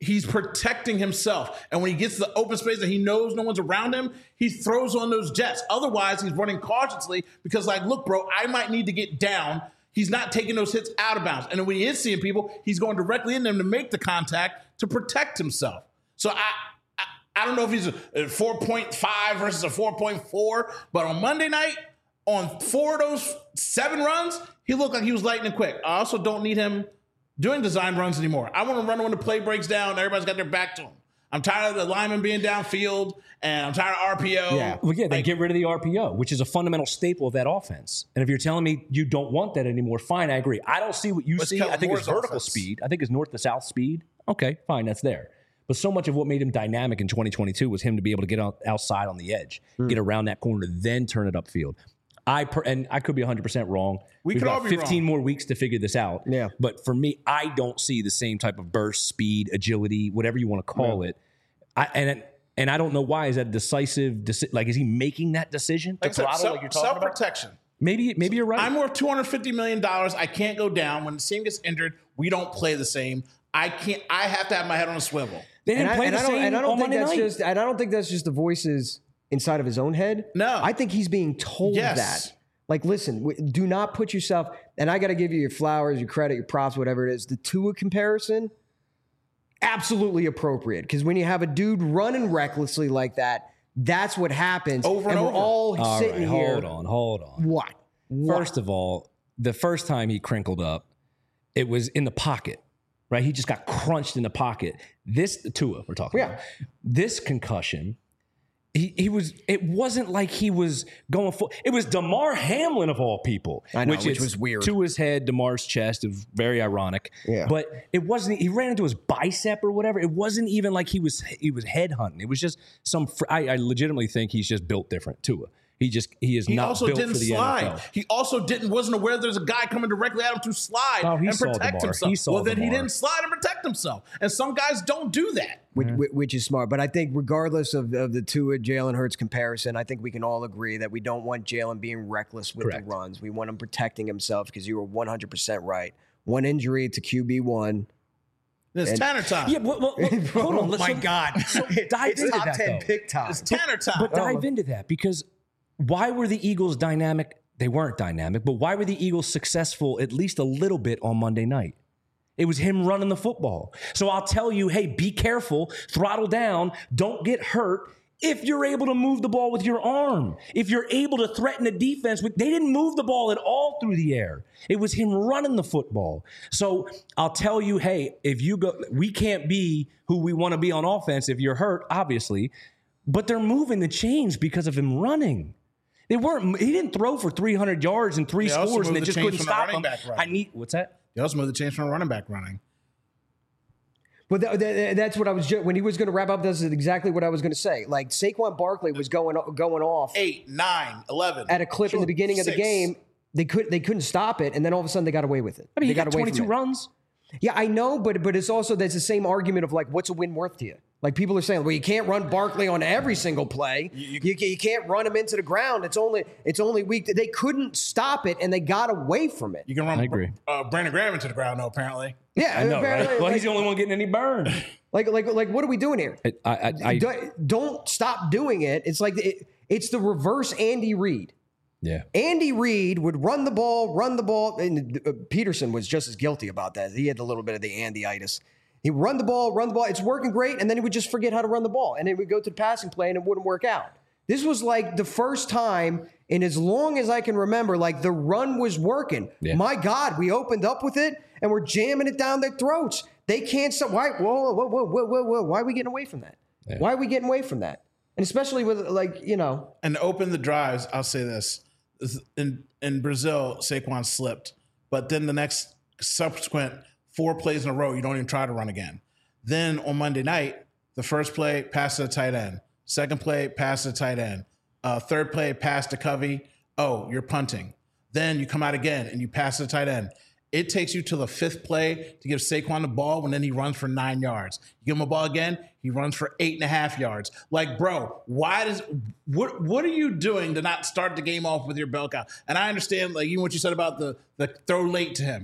he's protecting himself. And when he gets to the open space and he knows no one's around him, he throws on those jets. Otherwise, he's running cautiously because, like, look, bro, I might need to get down. He's not taking those hits out of bounds. And then when he is seeing people, he's going directly in them to make the contact to protect himself. So I don't know if he's a 4.5 versus a 4.4, but on Monday night, on 4 of those 7 runs, he looked like he was lightning quick. I also don't need him doing design runs anymore. I want to run when the play breaks down. Everybody's got their back to him. I'm tired of the lineman being downfield, and I'm tired of RPO. Yeah, well, yeah, they get rid of the RPO, which is a fundamental staple of that offense. And if you're telling me you don't want that anymore, fine, I agree. I don't see what you see. I think it's vertical speed. I think it's north to south speed. Okay, fine, that's there. But so much of what made him dynamic in 2022 was him to be able to get outside on the edge, get around that corner, then turn it upfield. And I could be 100% wrong. We've got 15 more weeks to figure this out. Yeah. But for me, I don't see the same type of burst, speed, agility, whatever you want to call it. And I don't know why. Is that a decisive? Like, is he making that decision to throttle like you're talking about? Self-protection. Maybe you're right. I'm worth $250 million. I can't go down. When the team gets injured, we don't play the same. I have to have my head on a swivel. They didn't play the same on Monday night. And I don't think that's just the voices inside of his own head. No. I think he's being told that. Like, listen, do not put yourself, and I got to give you your flowers, your credit, your props, whatever it is. The Tua comparison, absolutely appropriate. Because when you have a dude running recklessly like that, that's what happens. Over and over. We're all sitting here. Hold on. What? First of all, the first time he crinkled up, it was in the pocket, right? He just got crunched in the pocket. This Tua we're talking about. This concussion, it wasn't like he was going for it. Was Damar Hamlin of all people. I know, which was weird. To his head, Damar's chest. It was very ironic. Yeah. But it wasn't, he ran into his bicep or whatever. It wasn't even like he was head hunting. It was just I legitimately think he's just built different, Tua. He is not built for the NFL. He also wasn't aware there's a guy coming directly at him to slide and protect himself. Then he didn't slide and protect himself. And some guys don't do that. Which is smart. But I think regardless of the Tua Jalen Hurts comparison, I think we can all agree that we don't want Jalen being reckless with the runs. We want him protecting himself because you were 100% right. One injury to QB1. It's Tanner time. Yeah, well, hold on. Oh, my God. So dive into top that, 10 though. pick time. It's Tanner time. But dive into that, because why were the Eagles dynamic? They weren't dynamic, but why were the Eagles successful at least a little bit on Monday night? It was him running the football. So I'll tell you, hey, be careful, throttle down, don't get hurt if you're able to move the ball with your arm. If you're able to threaten the defense. They didn't move the ball at all through the air. It was him running the football. So I'll tell you, hey, if you go, we can't be who we want to be on offense if you're hurt, obviously, but they're moving the chains because of him running. He didn't throw for 300 yards and 3 scores, and they just couldn't stop him. What's that? They also moved the chains from a running back running. But that's what I was when he was going to wrap up. This is exactly what I was going to say. Like, Saquon Barkley was going off 8, 9, 11 at a clip in the beginning of the game. They couldn't stop it, and then all of a sudden they got away with it. I mean, they he got away 22 runs. Yeah, I know, but it's also there's the same argument of like, what's a win worth to you? Like, people are saying, well, you can't run Barkley on every single play. You can't run him into the ground. It's only weak. They couldn't stop it, and they got away from it. You can run I agree. Brandon Graham into the ground, though, apparently. Yeah, I know, right? Well, he's the only one getting any burn. Like, what are we doing here? Don't stop doing it. It's like it's the reverse Andy Reid. Yeah. Andy Reid would run the ball, and Peterson was just as guilty about that. He had a little bit of the Andy-itis. He'd run the ball. It's working great, and then he would just forget how to run the ball, and then we'd go to the passing play, and it wouldn't work out. This was like the first time in as long as I can remember, like the run was working. Yeah. My God, we opened up with it, and we're jamming it down their throats. They can't stop. Why? Whoa. Why are we getting away from that? Yeah. Why are we getting away from that? And especially with, like, you know. And open the drives, I'll say this. In Brazil, Saquon slipped. But then the next subsequent 4 plays in a row, you don't even try to run again. Then on Monday night, the first play, pass to the tight end. Second play, pass to the tight end. Third play, pass to Covey. Oh, you're punting. Then you come out again and you pass to the tight end. It takes you to the 5th play to give Saquon the ball, when then he runs for 9 yards. You give him a ball again, he runs for 8.5 yards. Like, bro, what are you doing to not start the game off with your bell cow? And I understand, like, even what you said about the throw late to him.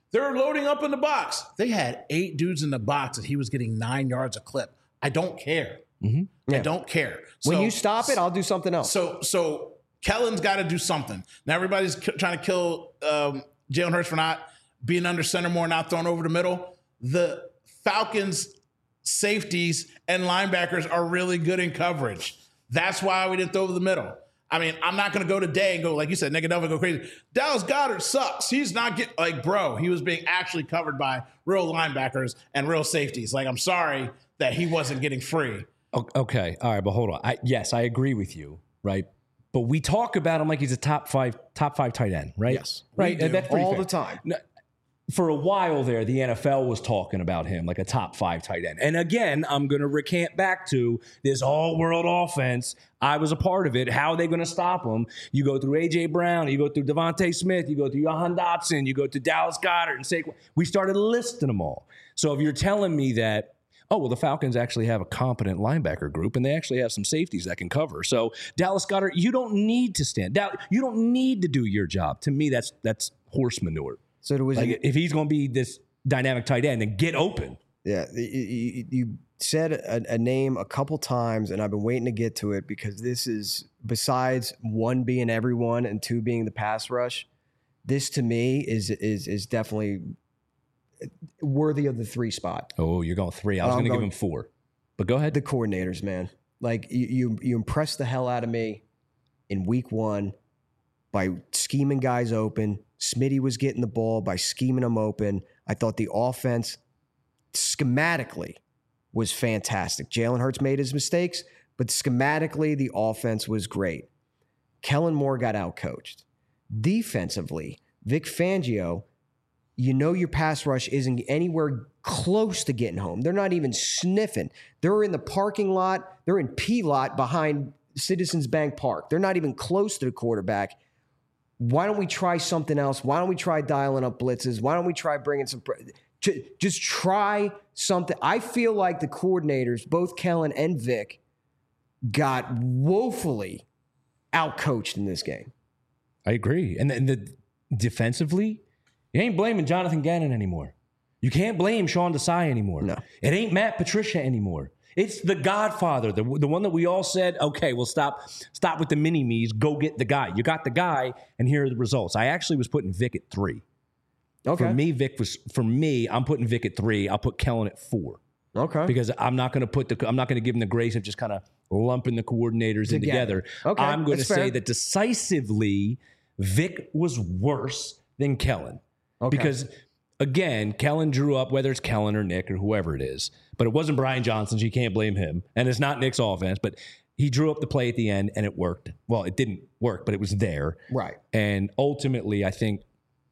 They're loading up in the box. They had 8 dudes in the box and he was getting 9 yards a clip. I don't care. Mm-hmm. I don't care. When you stop it, I'll do something else. So Kellen's got to do something. Now everybody's trying to kill Jalen Hurts for not being under center more, not throwing over the middle. The Falcons' safeties and linebackers are really good in coverage. That's why we didn't throw over the middle. I mean, I'm not going to go today and go, like you said, Negadelva go crazy. Dallas Goedert sucks. He's not getting, like, bro, he was being actually covered by real linebackers and real safeties. Like, I'm sorry that he wasn't getting free. Okay. All right. But hold on. Yes, I agree with you. Right. But we talk about him like he's a top five tight end, right? Yes. Right. That's all the time. For a while there, the NFL was talking about him like a top 5 tight end. And again, I'm going to recant back to this all-world offense. I was a part of it. How are they going to stop him? You go through A.J. Brown, you go through Devontae Smith, you go through Jahan Dotson, you go to Dallas Goedert and Saquon. We started listing them all. So if you're telling me that, oh, well, the Falcons actually have a competent linebacker group, and they actually have some safeties that can cover. So Dallas Goedert, you don't need to stand down. You don't need to do your job. To me, that's horse manure. So it was like, if he's going to be this dynamic tight end, then get open. Yeah, you said a name a couple times, and I've been waiting to get to it because this is, besides 1 being everyone and 2 being the pass rush, this to me is definitely worthy of the 3 spot. Oh, you're going 3. I was going to give him 4, but go ahead. The coordinators, man, like you impressed the hell out of me in week 1 by scheming guys open. Smitty was getting the ball by scheming them open. I thought the offense schematically was fantastic. Jalen Hurts made his mistakes, but schematically the offense was great. Kellen Moore got outcoached. Defensively, Vic Fangio, you know your pass rush isn't anywhere close to getting home. They're not even sniffing. They're in the parking lot. They're in P-lot behind Citizens Bank Park. They're not even close to the quarterback. Why don't we try something else? Why don't we try dialing up blitzes? Why don't we try bringing some just try something? I feel like the coordinators, both Kellen and Vic, got woefully outcoached in this game. I agree. And the defensively, you ain't blaming Jonathan Gannon anymore. You can't blame Sean Desai anymore. No. It ain't Matt Patricia anymore. It's the Godfather, the one that we all said, okay, well, stop with the mini-me's, go get the guy. You got the guy, and here are the results. I actually was putting Vic at 3. Okay. For me, I'm putting Vic at 3. I'll put Kellen at 4. Okay. Because I'm not going to give him the grace of just kind of lumping the coordinators in together. Okay. I'm going to say fair. that decisively, Vic was worse than Kellen. Okay. Because again, Kellen drew up, whether it's Kellen or Nick or whoever it is, but it wasn't Brian Johnson, so you can't blame him. And it's not Nick's offense, but he drew up the play at the end and it worked. Well, it didn't work, but it was there. Right. And ultimately, I think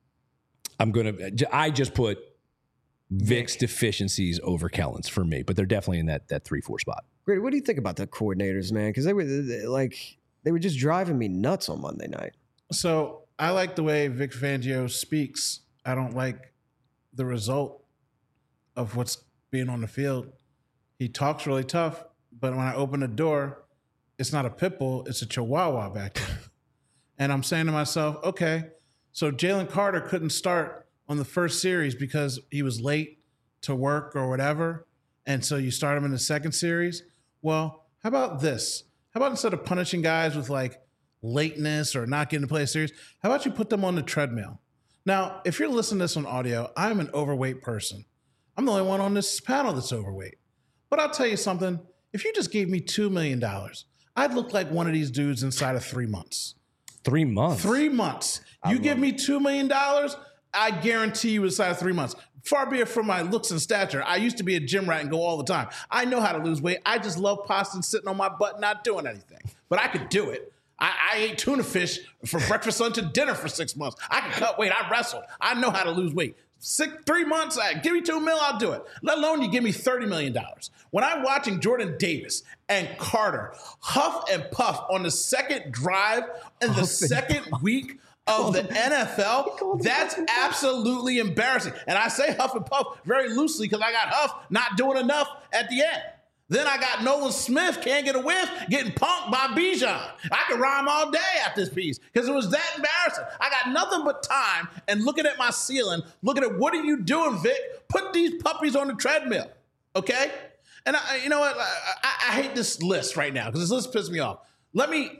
I just put Vic's deficiencies over Kellen's for me, but they're definitely in that 3-4 spot. Great. What do you think about the coordinators, man? Because they were just driving me nuts on Monday night. So I like the way Vic Fangio speaks. I don't like the result of what's being on the field. He talks really tough, but when I open the door, it's not a pit bull, it's a chihuahua back there. And I'm saying to myself, okay, so Jalen Carter couldn't start on the first series because he was late to work or whatever, and so you start him in the second series. Well, how about this? How about instead of punishing guys with like lateness or not getting to play a series, how about you put them on the treadmill? Now, if you're listening to this on audio, I'm an overweight person. I'm the only one on this panel that's overweight. But I'll tell you something. If you just gave me $2 million, I'd look like one of these dudes inside of 3 months. 3 months? 3 months. You give me $2 million, I guarantee you inside of 3 months. Far be it from my looks and stature. I used to be a gym rat and go all the time. I know how to lose weight. I just love pasta and sitting on my butt not doing anything. But I could do it. I ate tuna fish for breakfast, lunch, and dinner for 6 months. I can cut weight. I wrestled. I know how to lose weight. 3 months, give me $2 million, I'll do it. Let alone you give me $30 million. When I'm watching Jordan Davis and Carter huff and puff on the second drive in the second week of the NFL, that's absolutely embarrassing. And I say huff and puff very loosely because I got Huff not doing enough at the end. Then I got Nolan Smith, can't get a whiff, getting punked by Bijan. I could rhyme all day at this piece because it was that embarrassing. I got nothing but time and looking at my ceiling, looking at what are you doing, Vic? Put these puppies on the treadmill, okay? And you know what? I hate this list right now because this list pisses me off. Let me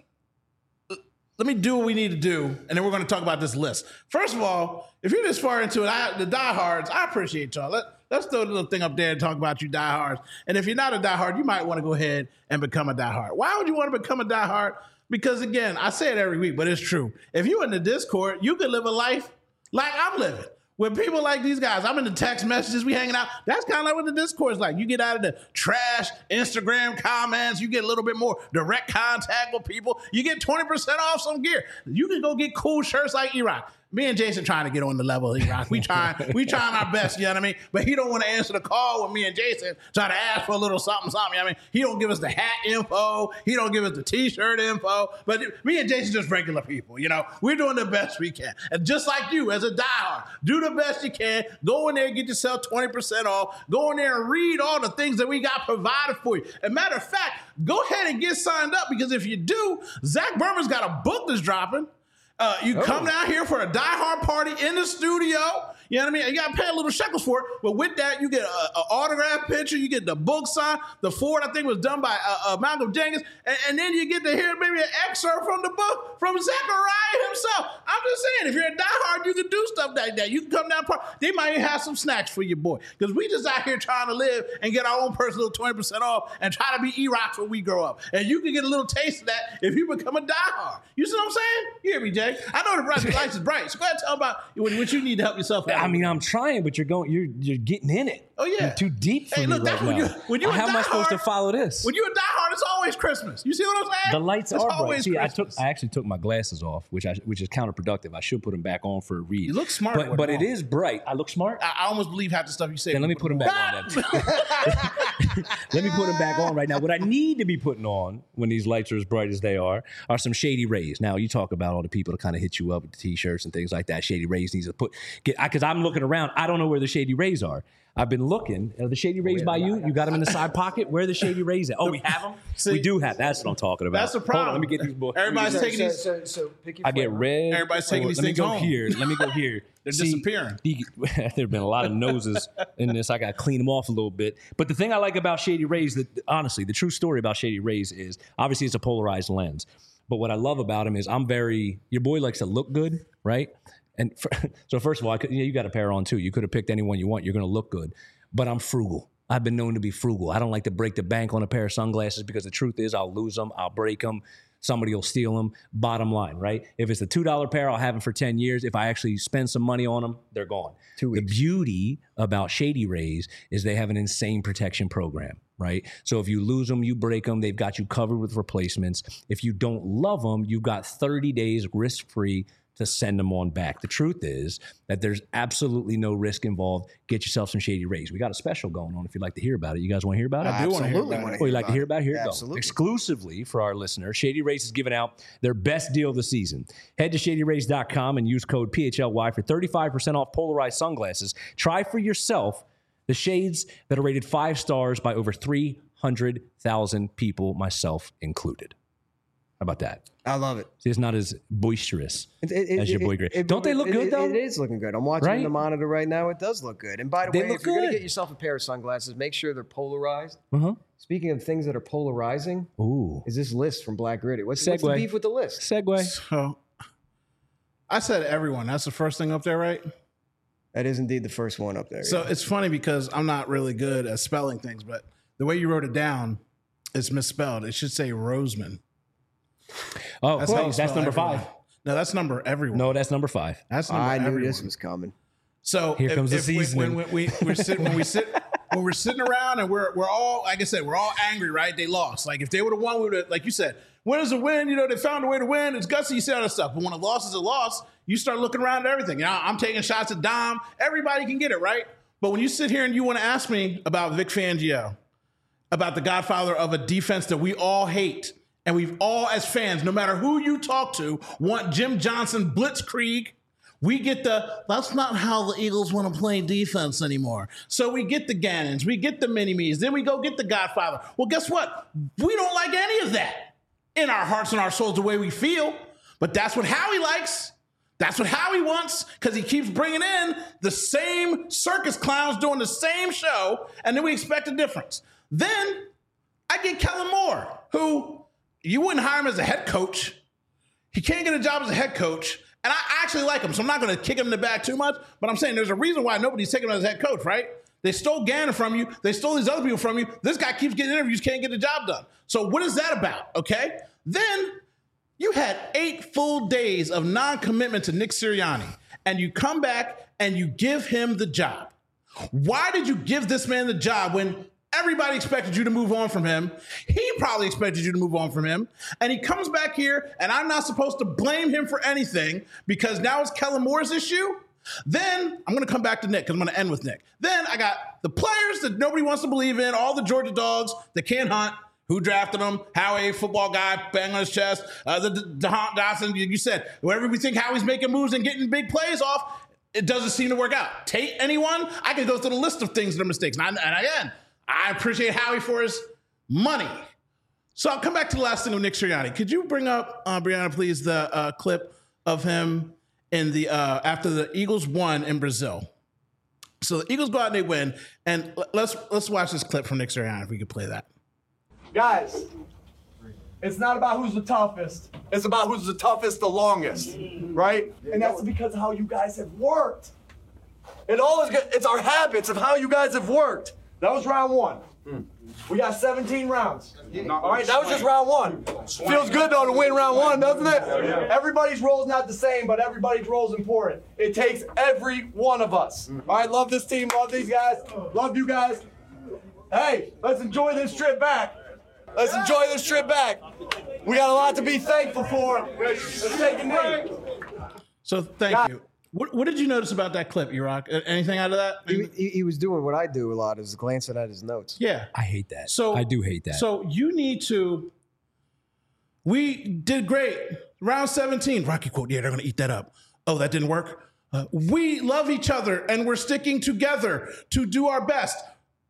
do what we need to do, and then we're going to talk about this list. First of all, if you're this far into it, the diehards, I appreciate y'all. Let's throw the little thing up there and talk about you diehards. And if you're not a diehard, you might want to go ahead and become a diehard. Why would you want to become a diehard? Because again, I say it every week, but it's true. If you're in the Discord, you can live a life like I'm living. With people like these guys, I'm in the text messages, we hanging out. That's kind of like what the Discord is like. You get out of the trash Instagram comments, you get a little bit more direct contact with people. You get 20% off some gear. You can go get cool shirts like E-Rock. Me and Jason trying to get on the level of E-Rock. We trying our best, you know what I mean? But he don't want to answer the call with me and Jason trying to ask for a little something, you know what I mean? He don't give us the hat info. He don't give us the t-shirt info. But me and Jason just regular people, you know? We're doing the best we can. And just like you, as a diehard, do the best you can. Go in there and get yourself 20% off. Go in there and read all the things that we got provided for you. As a matter of fact, go ahead and get signed up because if you do, Zach Berman's got a book that's dropping. You come down here for a diehard party in the studio. You know what I mean? You got to pay a little shekels for it. But with that, you get an autograph picture. You get the book signed. The forward, I think, was done by Malcolm Jenkins. And then you get to hear maybe an excerpt from the book from Zachariah himself. I'm just saying, if you're a diehard, you can do stuff like that. You can come down. They might even have some snacks for your boy. Because we just out here trying to live and get our own personal 20% off and try to be E-Rocks when we grow up. And you can get a little taste of that if you become a diehard. You see what I'm saying? You hear me, Jay? I know the lights is bright. So go ahead and tell about what you need to help yourself out. I mean, I'm trying, but you're getting in it. Oh yeah, you're too deep for me right now. How am I supposed to follow this? When you're a diehard, it's always Christmas. You see what I'm saying? The lights are bright. See, I actually took my glasses off, which is counterproductive. I should put them back on for a read. You look smart, but it is bright. I look smart. I almost believe half the stuff you say. Then let me put them back on. Let me put them back on right now. What I need to be putting on when these lights are as bright as they are some Shady Rays. Now you talk about all the people that kind of hit you up with the t-shirts and things like that. Shady Rays needs to because I'm looking around. I don't know where the Shady Rays are. I've been looking. Are the Shady Rays by you? You got them in the side pocket? Where are the Shady Rays at? Oh, we have them? See, we do have. That's what I'm talking about. That's the problem. Hold on, let me get these boys. Everybody's taking these. So pick your I get red. Everybody's taking these things home. Let me go here. They're disappearing. There have been a lot of noses in this. I got to clean them off a little bit. But the thing I like about Shady Rays, that honestly, the true story about Shady Rays is, obviously it's a polarized lens. But what I love about him is your boy likes to look good, right? And so first of all, you got a pair on too. You could have picked anyone you want. You're going to look good. But I'm frugal. I've been known to be frugal. I don't like to break the bank on a pair of sunglasses because the truth is I'll lose them. I'll break them. Somebody will steal them. Bottom line, right? If it's a $2 pair, I'll have them for 10 years. If I actually spend some money on them, they're gone. 2 weeks. The beauty about Shady Rays is they have an insane protection program, right? So if you lose them, you break them, they've got you covered with replacements. If you don't love them, you've got 30 days risk-free to send them on back. The truth is that there's absolutely no risk involved. Get yourself some Shady Rays. We got a special going on if you'd like to hear about it. You guys want to hear about it? I do want to hear about it. You'd like to hear about it? Here it goes. Exclusively for our listeners, Shady Rays is giving out their best deal of the season. Head to ShadyRays.com and use code PHLY for 35% off polarized sunglasses. Try for yourself the shades that are rated 5 stars by over 300,000 people, myself included. How about that? I love it. See, it's not as boisterous as your boy Gray. Don't they look good, though? It is looking good. I'm watching the monitor right now. It does look good. And by the way, if you're going to get yourself a pair of sunglasses, make sure they're polarized. Uh-huh. Speaking of things that are polarizing, is this list from Black Gritty. What's the beef with the list? Segue. So, I said everyone. That's the first thing up there, right? That is indeed the first one up there. So it's funny because I'm not really good at spelling things, but the way you wrote it down is misspelled. It should say Roseman. Oh, that's number 5. No, that's number everyone. No, that's number 5. That's number I knew everyone. This was coming. So here comes the seasoning. When we're sitting around and we're all, like I said, we're all angry, right? They lost. Like if they would have won, we would have, like you said, win is a win. You know, they found a way to win. It's gutsy. You say all that stuff. But when a loss is a loss, you start looking around at everything. You know, I'm taking shots at Dom. Everybody can get it, right? But when you sit here and you want to ask me about Vic Fangio, about the godfather of a defense that we all hate, and we've all, as fans, no matter who you talk to, want Jim Johnson blitzkrieg, We get that's not how the Eagles want to play defense anymore. So we get the Gannons, we get the Mini-Me's, then we go get the Godfather. Well, guess what? We don't like any of that in our hearts and our souls the way we feel. But that's what Howie likes. That's what Howie wants, because he keeps bringing in the same circus clowns doing the same show, and then we expect a difference. Then I get Kellen Moore, who you wouldn't hire him as a head coach. He can't get a job as a head coach. And I actually like him, so I'm not going to kick him in the back too much. But I'm saying there's a reason why nobody's taking him as head coach, right? They stole Gannon from you. They stole these other people from you. This guy keeps getting interviews, can't get the job done. So what is that about, okay? Then you had 8 full days of non-commitment to Nick Sirianni, and you come back and you give him the job. Why did you give this man the job when everybody expected you to move on from him? He probably expected you to move on from him. And he comes back here, and I'm not supposed to blame him for anything because now it's Kellen Moore's issue. Then I'm going to come back to Nick because I'm going to end with Nick. Then I got the players that nobody wants to believe in, all the Georgia dogs that can't hunt. Who drafted him? Howie, football guy, bang on his chest. The Dawson, you said, wherever we think Howie's making moves and getting big plays off, it doesn't seem to work out. Tate, anyone? I could go through the list of things that are mistakes. And again, I appreciate Howie for his money. So I'll come back to the last thing with Nick Sirianni. Could you bring up, Brianna, please, the clip of him in the after the Eagles won in Brazil? So the Eagles go out and they win. And let's watch this clip from Nick Sirianni, if we could play that. Guys, it's not about who's the toughest. It's about who's the toughest the longest, right? And that's because of how you guys have worked. It's our habits of how you guys have worked. That was round 1. We got 17 rounds. All right, that was just round 1. Feels good, though, to win round 1, doesn't it? Everybody's role is not the same, but everybody's role is important. It takes every one of us. All right, love this team, love these guys, love you guys. Hey, let's enjoy this trip back. Let's enjoy this trip back. We got a lot to be thankful for. Let's take a knee. So thank you. What did you notice about that clip, E-Rock? Anything out of that? He was doing what I do a lot, is glancing at his notes. Yeah. I hate that. So I do hate that. So you need to. We did great. Round 17. Rocky quote. Yeah, they're going to eat that up. Oh, that didn't work? We love each other, and we're sticking together to do our best.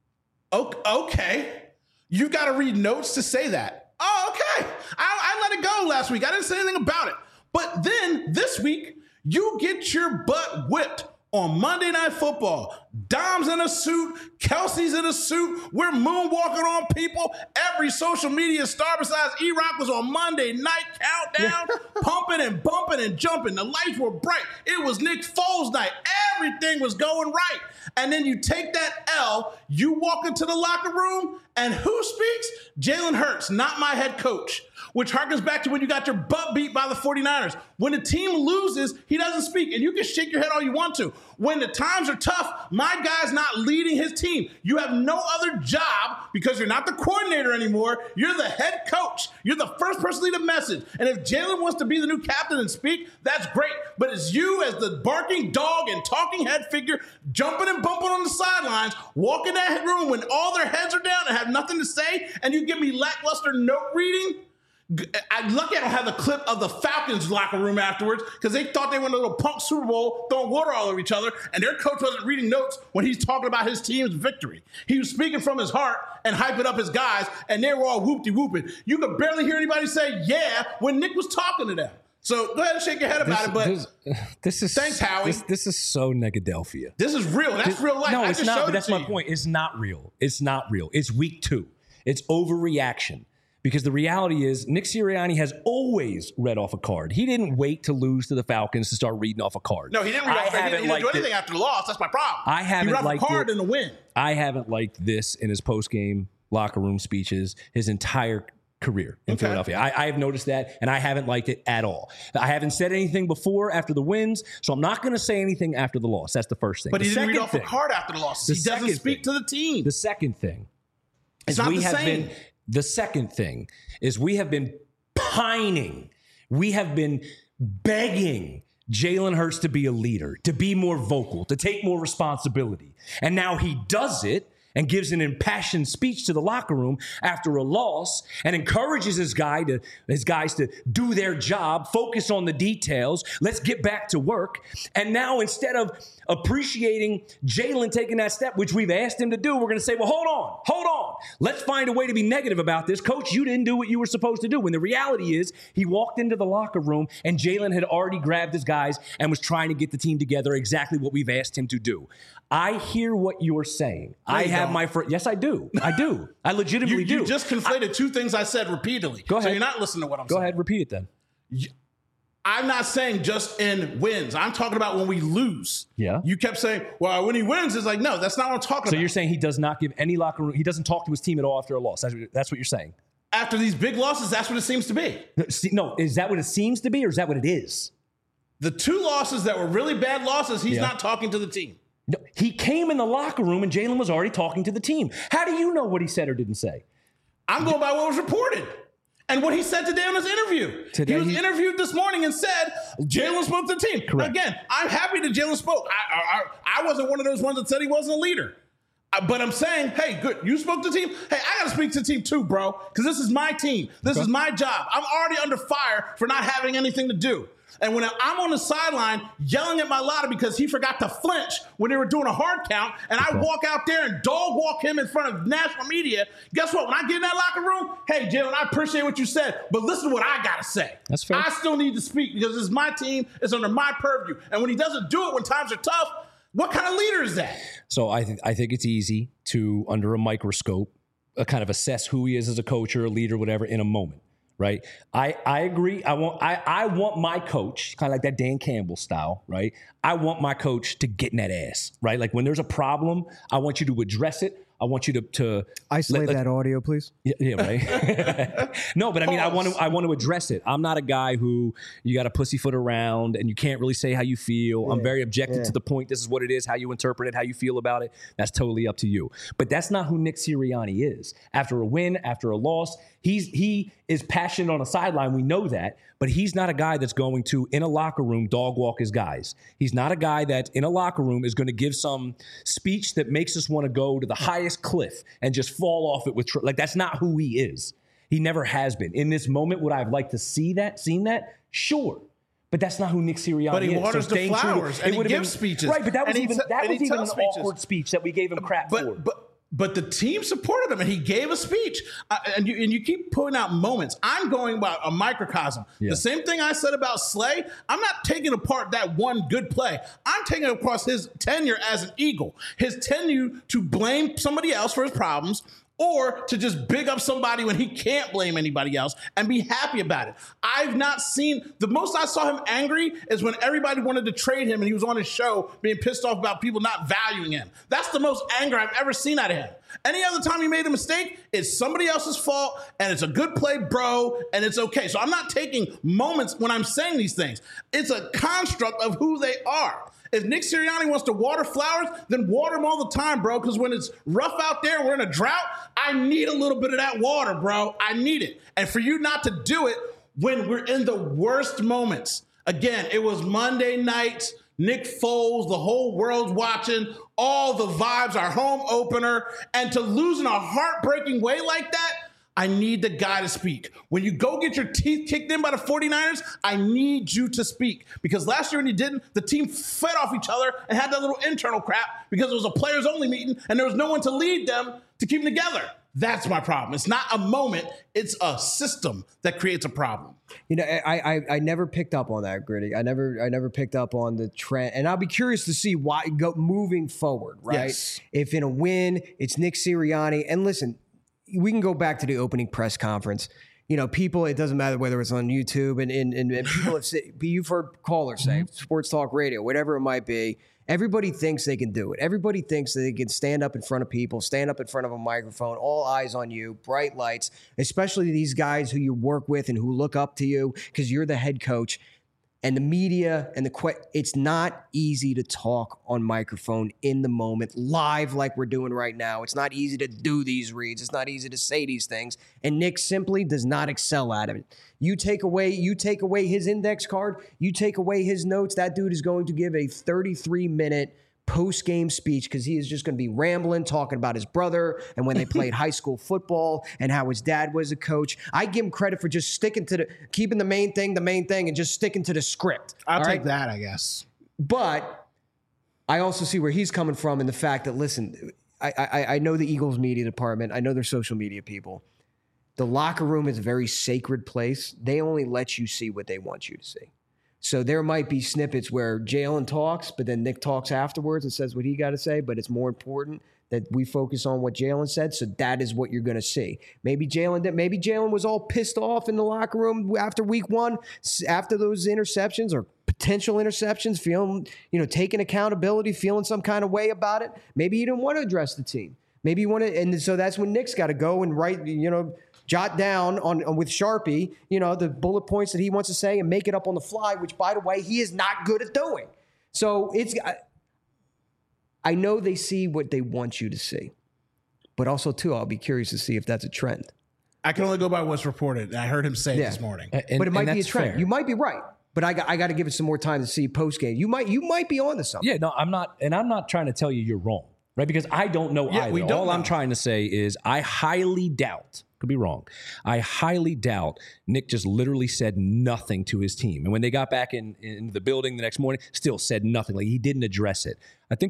Okay. You got to read notes to say that. Oh, okay. I let it go last week. I didn't say anything about it. But then this week, you get your butt whipped on Monday Night Football. Dom's in a suit. Kelsey's in a suit. We're moonwalking on people. Every social media star besides E-Rock was on Monday Night Countdown, pumping and bumping and jumping. The lights were bright. It was Nick Foles night. Everything was going right. And then you take that L, you walk into the locker room, and who speaks? Jalen Hurts, not my head coach, which harkens back to when you got your butt beat by the 49ers. When the team loses, he doesn't speak, and you can shake your head all you want to. When the times are tough, my guy's not leading his team. You have no other job because you're not the coordinator anymore. You're the head coach. You're the first person to lead a message. And if Jalen wants to be the new captain and speak, that's great. But it's you as the barking dog and talking head figure jumping and bumping on the sidelines, walking that room when all their heads are down and have nothing to say, and you give me lackluster note reading. I'm lucky I don't have the clip of the Falcons locker room afterwards because they thought they won a little punk Super Bowl throwing water all over each other, and their coach wasn't reading notes when he's talking about his team's victory. He was speaking from his heart and hyping up his guys, and they were all whoop-de-whooping. You could barely hear anybody say yeah when Nick was talking to them. So go ahead and shake your head about it, but this is thanks, Howie. This is so Negadelphia. This is real. That's real life. No, it's not. But that's my you. point. It's not real. It's not real. It's week 2. It's overreaction. Because the reality is, Nick Sirianni has always read off a card. He didn't wait to lose to the Falcons to start reading off a card. No, he didn't read off. He didn't do anything after the loss. That's my problem. I haven't liked it. He read off a card in the win. I haven't liked this in his post-game locker room speeches his entire career in Philadelphia. I have noticed that, and I haven't liked it at all. I haven't said anything before after the wins, so I'm not going to say anything after the loss. That's the first thing. But he didn't read off a card after the loss. He doesn't speak to the team. The second thing is we have been. The second thing is we have been pining. We have been begging Jalen Hurts to be a leader, to be more vocal, to take more responsibility. And now he does it, and gives an impassioned speech to the locker room after a loss and encourages his guys to do their job, focus on the details, let's get back to work. And now instead of appreciating Jalen taking that step, which we've asked him to do, we're going to say, well, hold on. Let's find a way to be negative about this. Coach, you didn't do what you were supposed to do. When the reality is he walked into the locker room and Jalen had already grabbed his guys and was trying to get the team together, exactly what we've asked him to do. I hear what you're saying. Yes, I do. I legitimately do. You just conflated two things I said repeatedly. Go ahead. So you're not listening to what I'm saying. Go ahead, repeat it then. I'm not saying just in wins. I'm talking about when we lose. Yeah. You kept saying, well, when he wins, it's like, no, that's not what I'm talking about. So you're saying he does not give any locker room, he doesn't talk to his team at all after a loss. That's what you're saying. After these big losses, that's what it seems to be. No, is that what it seems to be or is that what it is? The two losses that were really bad losses, he's not talking to the team. No, he came in the locker room and Jalen was already talking to the team. How do you know what he said or didn't say? I'm going by what was reported. And what he said today on his interview. He was interviewed this morning and said Jalen spoke to the team. Correct. Again, I'm happy that Jalen spoke. I wasn't one of those ones that said he wasn't a leader. But I'm saying, hey, good, you spoke to the team. Hey, I got to speak to the team too, bro, because this is my team. This is my job. I'm already under fire for not having anything to do. And when I'm on the sideline yelling at Mailata because he forgot to flinch when they were doing a hard count, and I walk out there and dog walk him in front of national media, guess what? When I get in that locker room, hey, Jalen, I appreciate what you said, but listen to what I got to say. That's fair. I still need to speak because this is my team. It's under my purview. And when he doesn't do it when times are tough, what kind of leader is that? So I think it's easy to, under a microscope, kind of assess who he is as a coach or a leader, whatever, in a moment. Right. I agree. I want my coach, kind of like that Dan Campbell style. Right. I want my coach to get in that ass. Right. Like when there's a problem, I want you to address it. I want you to isolate that audio, please. Yeah, right. No, but I mean, I want to address it. I'm not a guy who you got to pussyfoot around and you can't really say how you feel. Yeah, I'm very objective to the point. This is what it is. How you interpret it, how you feel about it. That's totally up to you. But that's not who Nick Sirianni is. After a win, after a loss, he is passionate on a sideline. We know that. But he's not a guy that's going to, in a locker room, dog walk his guys. He's not a guy that, in a locker room, is going to give some speech that makes us want to go to the highest cliff and just fall off it with like that's not who he is. He never has been. In this moment, would I have liked to seen that? Sure. But that's not who Nick Sirianni is. But he waters the flowers and he gives speeches. Right, but that was even an awkward speech that we gave him crap for. But the team supported him, and he gave a speech. And you keep putting out moments. I'm going about a microcosm. Yeah. The same thing I said about Slay, I'm not taking apart that one good play. I'm taking across his tenure as an Eagle, his tenure to blame somebody else for his problems, or to just big up somebody when he can't blame anybody else and be happy about it. I've not seen, the most I saw him angry is when everybody wanted to trade him and he was on his show being pissed off about people not valuing him. That's the most anger I've ever seen out of him. Any other time he made a mistake, it's somebody else's fault and it's a good play, bro, and it's okay. So I'm not taking moments when I'm saying these things. It's a construct of who they are. If Nick Sirianni wants to water flowers, then water them all the time, bro, because when it's rough out there, we're in a drought, I need a little bit of that water, bro. I need it. And for you not to do it when we're in the worst moments. Again, it was Monday night, Nick Foles, the whole world's watching, all the vibes, our home opener, and to lose in a heartbreaking way like that, I need the guy to speak. When you go get your teeth kicked in by the 49ers, I need you to speak. Because last year when you didn't, the team fed off each other and had that little internal crap because it was a players-only meeting and there was no one to lead them to keep them together. That's my problem. It's not a moment. It's a system that creates a problem. You know, I never picked up on that, Gritty. I never picked up on the trend. And I'll be curious to see why moving forward, right? Yes. If in a win, it's Nick Sirianni. And listen, we can go back to the opening press conference. You know, people, it doesn't matter whether it's on YouTube and people have said, you've heard callers say, sports talk radio, whatever it might be. Everybody thinks they can do it. Everybody thinks that they can stand up in front of people, stand up in front of a microphone, all eyes on you, bright lights, especially these guys who you work with and who look up to you because you're the head coach. And the media and it's not easy to talk on microphone in the moment, live like we're doing right now. It's not easy to do these reads. It's not easy to say these things. And Nick simply does not excel at it. You take away his index card, you take away his notes, that dude is going to give a 33-minute post-game speech because he is just going to be rambling, talking about his brother and when they played high school football and how his dad was a coach. I give him credit for just keeping the main thing, and just sticking to the script. I'll take that, I guess. But I also see where he's coming from in the fact that, listen, I know the Eagles media department. I know their social media people. The locker room is a very sacred place. They only let you see what they want you to see. So there might be snippets where Jalen talks, but then Nick talks afterwards and says what he got to say, but it's more important that we focus on what Jalen said. So that is what you're going to see. Maybe Jalen was all pissed off in the locker room after week 1, after those interceptions or potential interceptions, feeling, taking accountability, feeling some kind of way about it. Maybe he didn't want to address the team. Maybe he wanted, and so that's when Nick's got to go and write, jot down on with Sharpie, the bullet points that he wants to say and make it up on the fly, which, by the way, he is not good at doing. So I know they see what they want you to see, but also, too, I'll be curious to see if that's a trend. I can only go by what's reported. I heard him say it this morning. But it might be a trend. Fair. You might be right, but I got to give it some more time to see post game. You might be on to something. Yeah, no, I'm not, and I'm not trying to tell you you're wrong, right? Because I don't know either. All I'm trying to say is I highly doubt. Could be wrong. I highly doubt Nick just literally said nothing to his team. And when they got back in the building the next morning, still said nothing. Like, he didn't address it. I think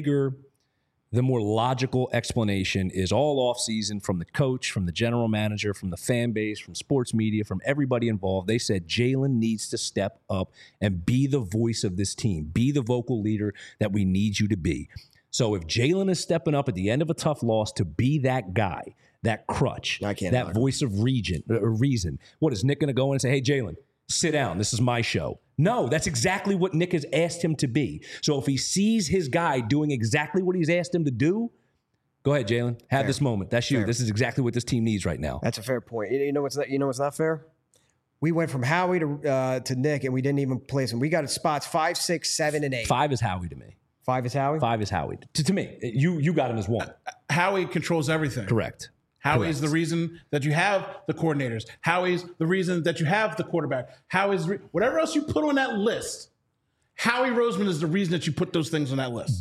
the more logical explanation is all offseason from the coach, from the general manager, from the fan base, from sports media, from everybody involved. They said Jalen needs to step up and be the voice of this team, be the vocal leader that we need you to be. So if Jalen is stepping up at the end of a tough loss to be that guy, that crutch, that voice of reason. What is Nick going to go in and say, hey, Jalen, sit down. This is my show. No, that's exactly what Nick has asked him to be. So if he sees his guy doing exactly what he's asked him to do, go ahead, Jalen. Have this moment. That's you. Fair. This is exactly what this team needs right now. That's a fair point. You know what's not fair? We went from Howie to Nick, and we didn't even place him. We got spots 5, 6, 7, and 8. 5 is Howie to me. 5 is Howie? 5 is Howie. To me. You got him as 1. Howie controls everything. Correct. Howie's the reason that you have the coordinators. Howie's the reason that you have the quarterback. Whatever else you put on that list, Howie Roseman is the reason that you put those things on that list.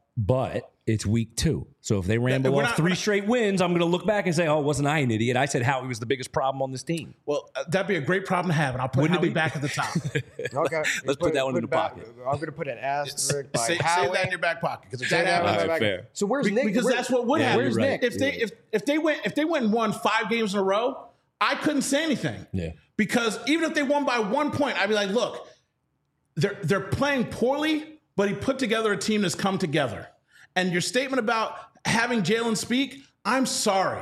But it's week 2. So if they ramble off 3 straight wins, I'm going to look back and say, oh, wasn't I an idiot? I said Howie was the biggest problem on this team. Well, that'd be a great problem to have, and I'll put Howie back at the top. Okay. Let's put that one in the pocket. I'm going to put an asterisk by Save Howie. that in your back pocket. Because if that happens, fair. So where's Nick? Because that's what would happen. Where's Nick? If they went and won 5 games in a row, I couldn't say anything. Yeah. Because even if they won by 1 point, I'd be like, look, they're playing poorly, but he put together a team that's come together. And your statement about having Jalen speak, I'm sorry.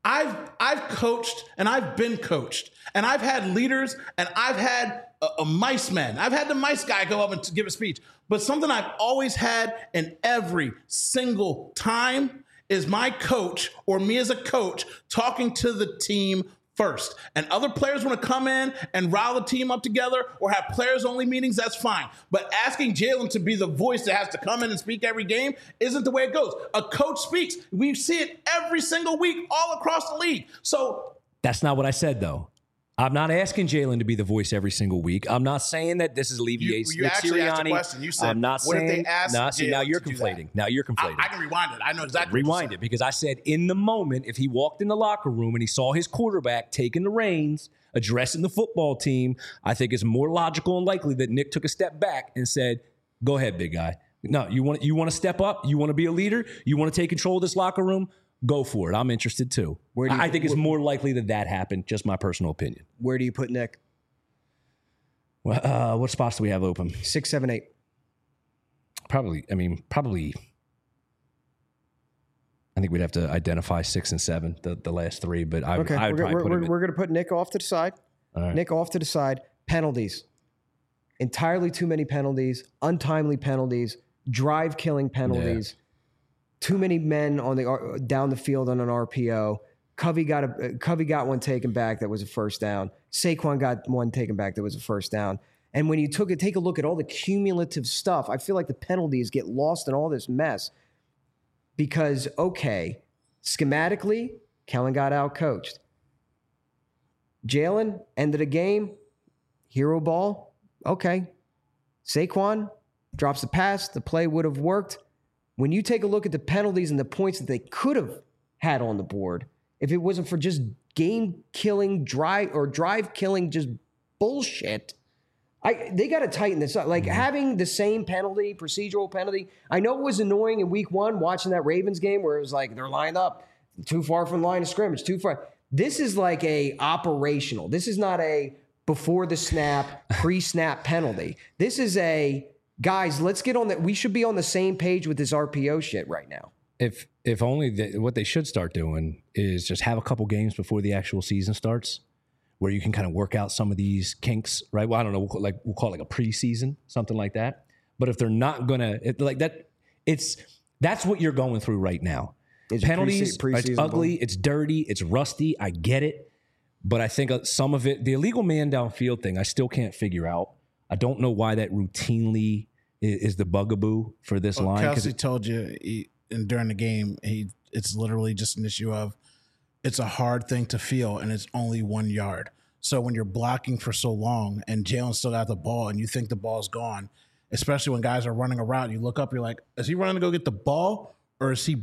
I've coached and I've been coached. And I've had leaders and I've had a mice man. I've had the mice guy go up and give a speech. But something I've always had in every single time is my coach or me as a coach talking to the team first. And other players want to come in and rile the team up together or have players-only meetings, that's fine. But asking Jalen to be the voice that has to come in and speak every game isn't the way it goes. A coach speaks. We see it every single week all across the league. So that's not what I said, though. I'm not asking Jalen to be the voice every single week. I'm not saying that this is alleviates you actually asked a question. You said, I'm not what saying, if they asked now you're conflating. Now you're conflating. I can rewind it. I know exactly Rewind it, because I said in the moment, if he walked in the locker room and he saw his quarterback taking the reins, addressing the football team, I think it's more logical and likely that Nick took a step back and said, go ahead, big guy. No, you want to step up? You want to be a leader? You want to take control of this locker room? Go for it. I'm interested too. I think it's more likely that happened. Just my personal opinion. Where do you put Nick? Well, what spots do we have open? 6, 7, 8. Probably. I think we'd have to identify 6 and 7, the last 3. But I would probably put him in. We're going to put Nick off to the side. All right. Nick off to the side. Penalties. Entirely too many penalties. Untimely penalties. Drive-killing penalties. Yeah. Too many men on down the field on an RPO. Covey got one taken back that was a first down. Saquon got one taken back that was a first down. And when you take a look at all the cumulative stuff, I feel like the penalties get lost in all this mess. Because, okay, schematically, Kellen got out-coached. Jalen, end of the game, hero ball, okay. Saquon drops the pass, the play would have worked. when you take a look at the penalties and the points that they could have had on the board, if it wasn't for just game-killing, drive-killing, just bullshit, they got to tighten this up. Like, having the same penalty, procedural penalty, I know it was annoying in week 1 watching that Ravens game where it was like they're lined up too far from the line of scrimmage, too far. This is like a operational. This is not a before the snap, pre-snap penalty. This is a, guys, let's get on that. We should be on the same page with this RPO shit right now. If only what they should start doing is just have a couple games before the actual season starts, where you can kind of work out some of these kinks, right? Well, I don't know, we'll call it like a preseason, something like that. But if they're not gonna like that, that's what you're going through right now. It's penalties, it's ugly, ball. it's dirty, it's rusty. I get it, but I think some of it, the illegal man downfield thing, I still can't figure out. I don't know why that routinely is the bugaboo for this line. Kelsey told you during the game, it's literally just an issue of it's a hard thing to feel, and it's only 1 yard. So when you're blocking for so long and Jalen still got the ball and you think the ball's gone, especially when guys are running a route, you look up, you're like, is he running to go get the ball or is he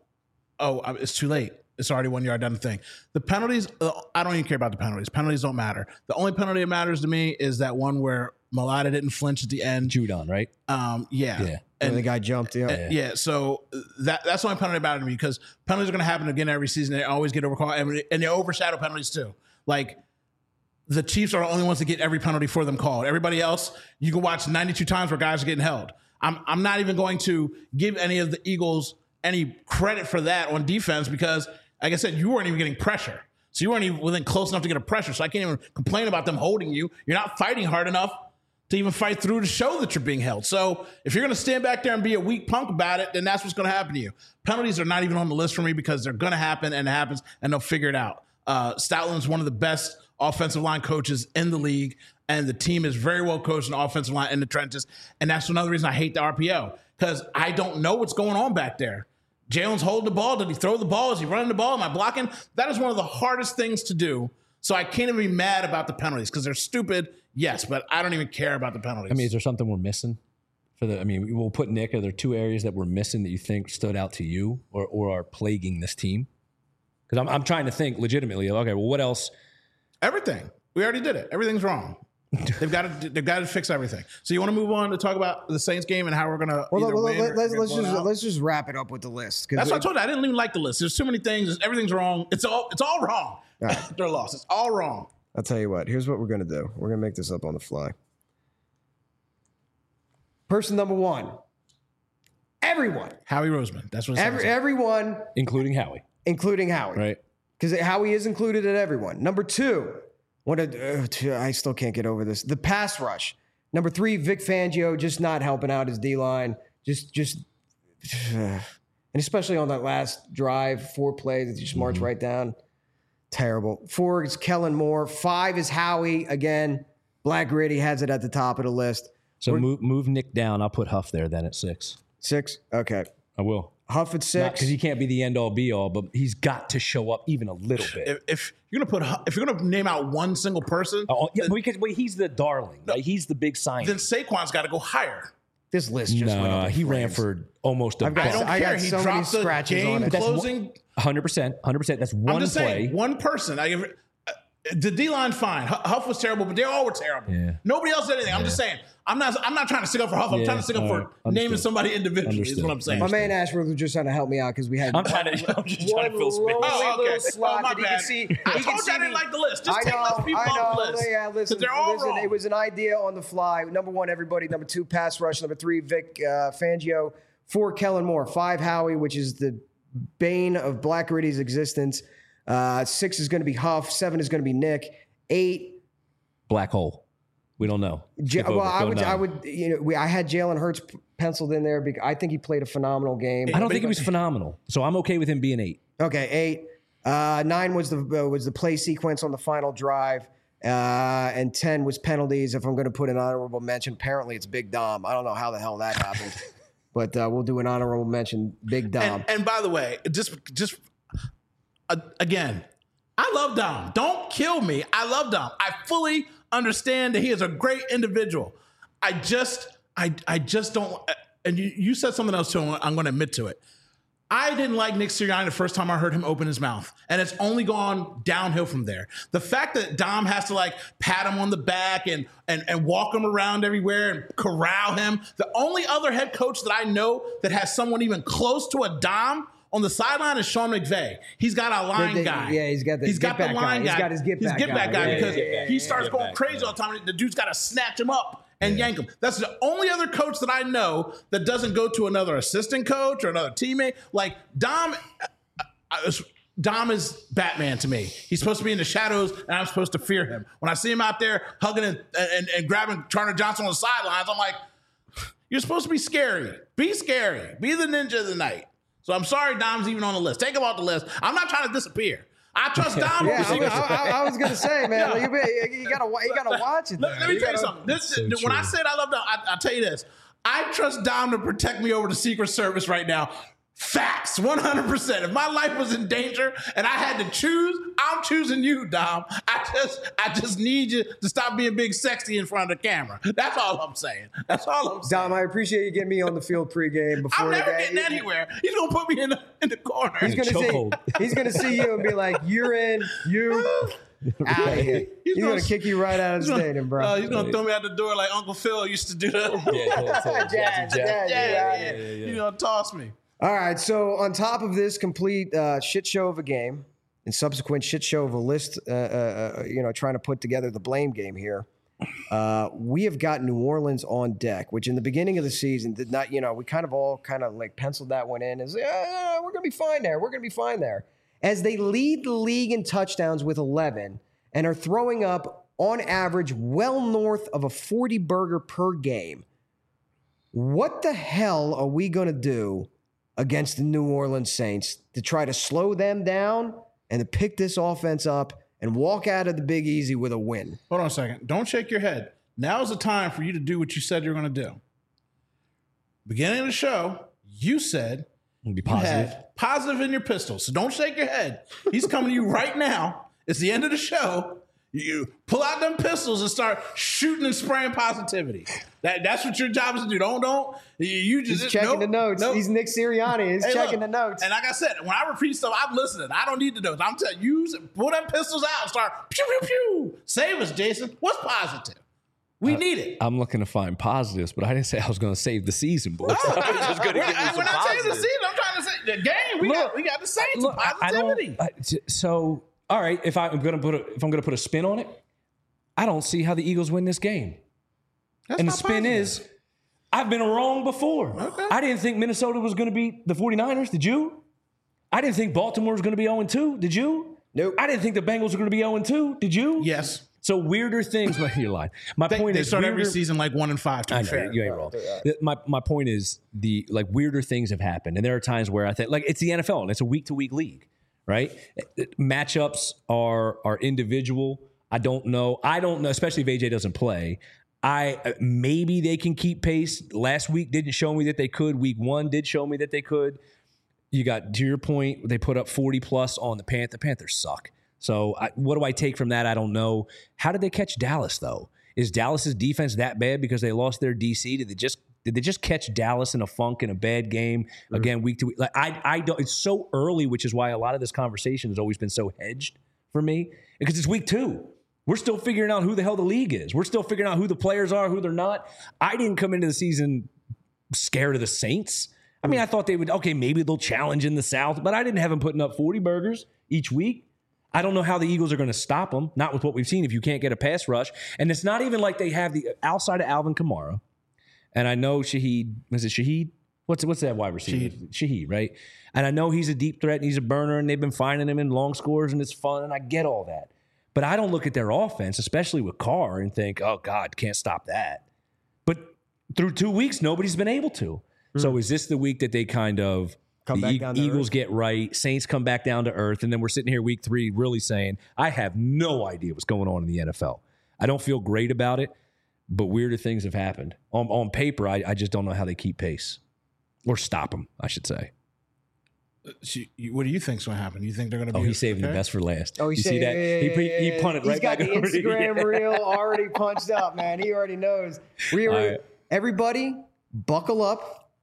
Oh, it's too late. It's already 1 yard down the thing. The penalties, I don't even care about the penalties. Penalties don't matter. The only penalty that matters to me is that one where Mailata didn't flinch at the end. Judon, right? Yeah. And the guy jumped. Yeah. So that's the only penalty that matters to me, because penalties are going to happen again every season. They always get overcalled, and they overshadow penalties too. Like, the Chiefs are the only ones that get every penalty for them called. Everybody else, you can watch 92 times where guys are getting held. I'm not even going to give any of the Eagles any credit for that on defense, because, like I said, you weren't even getting pressure. So you weren't even within close enough to get a pressure. So I can't even complain about them holding you. You're not fighting hard enough to even fight through to show that you're being held. So if you're going to stand back there and be a weak punk about it, then that's what's going to happen to you. Penalties are not even on the list for me, because they're going to happen, and it happens, and they'll figure it out. Stoutland's one of the best offensive line coaches in the league, and the team is very well coached in the offensive line in the trenches. And that's another reason I hate the RPO, because I don't know what's going on back there. Jalen's holding the ball. Did he throw the ball? Is he running the ball? Am I blocking? That is one of the hardest things to do. So I can't even be mad about the penalties, because they're stupid, yes, but I don't even care about the penalties. I mean, is there something we're missing? We'll put Nick. Are there 2 areas that we're missing that you think stood out to you or are plaguing this team? Because I'm trying to think legitimately. Okay, well, what else? Everything. We already did it. Everything's wrong. They've got to fix everything. So you want to move on to talk about the Saints game and how we're gonna? Let's just wrap it up with the list. That's what I told you. I didn't even like the list. There's too many things. Everything's wrong. It's all wrong. Right. They're lost. It's all wrong. I'll tell you what. Here's what we're gonna do. We're gonna make this up on the fly. Person number 1. Everyone. Howie Roseman. That's what. Everyone, including Howie. Right. Because Howie is included at everyone. Number 2. I still can't get over this. The pass rush. Number 3, Vic Fangio, just not helping out his D-line. And especially on that last drive, 4 plays that just march right down. Terrible. 4 is Kellen Moore. 5 is Howie. Again, Black Gritty has it at the top of the list. So move Nick down. I'll put Huff there then at 6. 6? Okay. I will. Huff at 6. Because he can't be the end all be all, but he's got to show up even a little bit. If you're gonna name out one single person, because he's the darling, right? He's the big sign. Then Saquon's got to go higher. This list just went up. He ran for almost a I don't care. He so dropped the game closing. 100%. That's one I'm just play. Saying, one person. The D-line fine. Huff was terrible, but they all were terrible. Yeah. Nobody else did anything. I'm just saying. I'm not trying to stick up for Huff. I'm trying to stick up for naming somebody individually. Is what I'm saying. My man Ashworth was just trying to help me out because we had. I'm just trying to fill space. Okay. Slot my bad. I told you I didn't like the list. Just take less people off the list. Yeah, listen. They're all wrong. It was an idea on the fly. Number 1, everybody. Number 2, pass rush. Number 3, Vic Fangio. 4, Kellen Moore. 5, Howie, which is the bane of Black Gritty's existence. 6 is going to be Huff. 7 is going to be Nick. 8. Black hole. We don't know. I had Jalen Hurts penciled in there because I think he played a phenomenal game. I don't think he was phenomenal, so I'm okay with him being 8. Okay, 8. 9 was the play sequence on the final drive, and 10 was penalties. If I'm going to put an honorable mention, apparently it's Big Dom. I don't know how the hell that happened, but we'll do an honorable mention, Big Dom. And by the way, again, I love Dom. Don't kill me. I love Dom. I fully understand that he is a great individual. I just don't. and you said something else too, I'm going to admit to it. I didn't like Nick Sirianni the first time I heard him open his mouth, and it's only gone downhill from there. The fact that Dom has to like pat him on the back and walk him around everywhere and corral him. The only other head coach that I know that has someone even close to a Dom on the sideline is Sean McVay. He's got a line guy. Yeah, he's got the line guy. He's got his get back guy because he starts going crazy all the time. The dude's got to snatch him up and yank him. That's the only other coach that I know that doesn't go to another assistant coach or another teammate. Like Dom is Batman to me. He's supposed to be in the shadows, and I'm supposed to fear him. When I see him out there hugging and grabbing Turner Johnson on the sidelines, I'm like, you're supposed to be scary. Be scary. Be the ninja of the night. So I'm sorry Dom's even on the list. Take him off the list. I'm not trying to disappear. I trust Dom. I was gonna say, man, you gotta watch it. Let me tell you something. When I said I love Dom, I'll tell you this. I trust Dom to protect me over the Secret Service right now. Facts, 100%. If my life was in danger and I had to choose, I'm choosing you, Dom. I just need you to stop being big sexy in front of the camera. That's all I'm saying. Dom, I appreciate you getting me on the field pregame before I'm the never game. getting anywhere. He's gonna put me in the corner. He's gonna see you and be like, "You're in. You out of here." He's gonna kick you right out of the stadium, bro. He's gonna throw me out the door like Uncle Phil used to do that. He's gonna toss me. All right, so on top of this complete shit show of a game and subsequent shit show of a list, trying to put together the blame game here, we have got New Orleans on deck, which in the beginning of the season did not, we kind of like penciled that one in as, we're going to be fine there. We're going to be fine there. As they lead the league in touchdowns with 11 and are throwing up, on average, well north of a 40 burger per game. What the hell are we going to do against the New Orleans Saints to try to slow them down and to pick this offense up and walk out of the Big Easy with a win? Hold on a second. Don't shake your head. Now's the time for you to do what you said you were going to do. Beginning of the show, you said be positive. You had positive in your pistol. So don't shake your head. He's coming to you right now. It's the end of the show. You pull out them pistols and start shooting and spraying positivity. That's what your job is to do. Don't. You just He's checking the notes. Nope. He's Nick Sirianni. He's checking the notes. And like I said, when I repeat stuff, I'm listening. I don't need the notes. I'm telling you, pull them pistols out and start pew pew pew. Save us, Jason. What's positive? We need it. I'm looking to find positives, but I didn't say I was going to save the season, boys. Oh, I was just going to give you some when I say the positives. season, I'm trying to say the game. We got the Saints. Positivity. So, all right, if I'm going to put a spin on it, I don't see how the Eagles win this game. And the spin is, I've been wrong before. Okay. I didn't think Minnesota was going to beat the 49ers. Did you? I didn't think Baltimore was going to be 0-2. Did you? Nope. I didn't think the Bengals were going to be 0-2. Did you? Yes. So weirder things. Well, you're lying. My point They is start every weirder- season like 1-5. To I be know, fair. you ain't wrong. My point is the weirder things have happened, and there are times where I think it's the NFL and it's a week to week league, right? Matchups are individual. I don't know, especially if AJ doesn't play. Maybe they can keep pace. Last week didn't show me that they could. Week 1 did show me that they could. You got, to your point, they put up 40 plus on the Panthers. The Panthers suck. So what do I take from that? I don't know. How did they catch Dallas though? Is Dallas's defense that bad because they lost their DC? Did they just catch Dallas in a funk in a bad game again week to week? Like I don't. It's so early, which is why a lot of this conversation has always been so hedged for me because it's week 2. We're still figuring out who the hell the league is. We're still figuring out who the players are, who they're not. I didn't come into the season scared of the Saints. I mean, I thought they would, maybe they'll challenge in the South, but I didn't have them putting up 40 burgers each week. I don't know how the Eagles are going to stop them, not with what we've seen if you can't get a pass rush. And it's not even like they have the outside of Alvin Kamara. And I know Shaheed, is it Shaheed? What's that wide receiver? Shaheed, right? And I know he's a deep threat and he's a burner and they've been finding him in long scores and it's fun and I get all that. But I don't look at their offense, especially with Carr, and think, oh, God, can't stop that. But through 2 weeks, nobody's been able to. So is this the week that they kind of, Eagles get right, Saints come back down to earth, and then we're sitting here week 3 really saying, I have no idea what's going on in the NFL. I don't feel great about it, but weirder things have happened. On paper, I just don't know how they keep pace. Or stop them, I should say. What do you think's going to happen? You think they're going to be? Oh, he's saving the best for last. Oh, you see that? He punted right back over. He's got the Instagram reel already punched up, man. He already knows. Everybody, buckle up.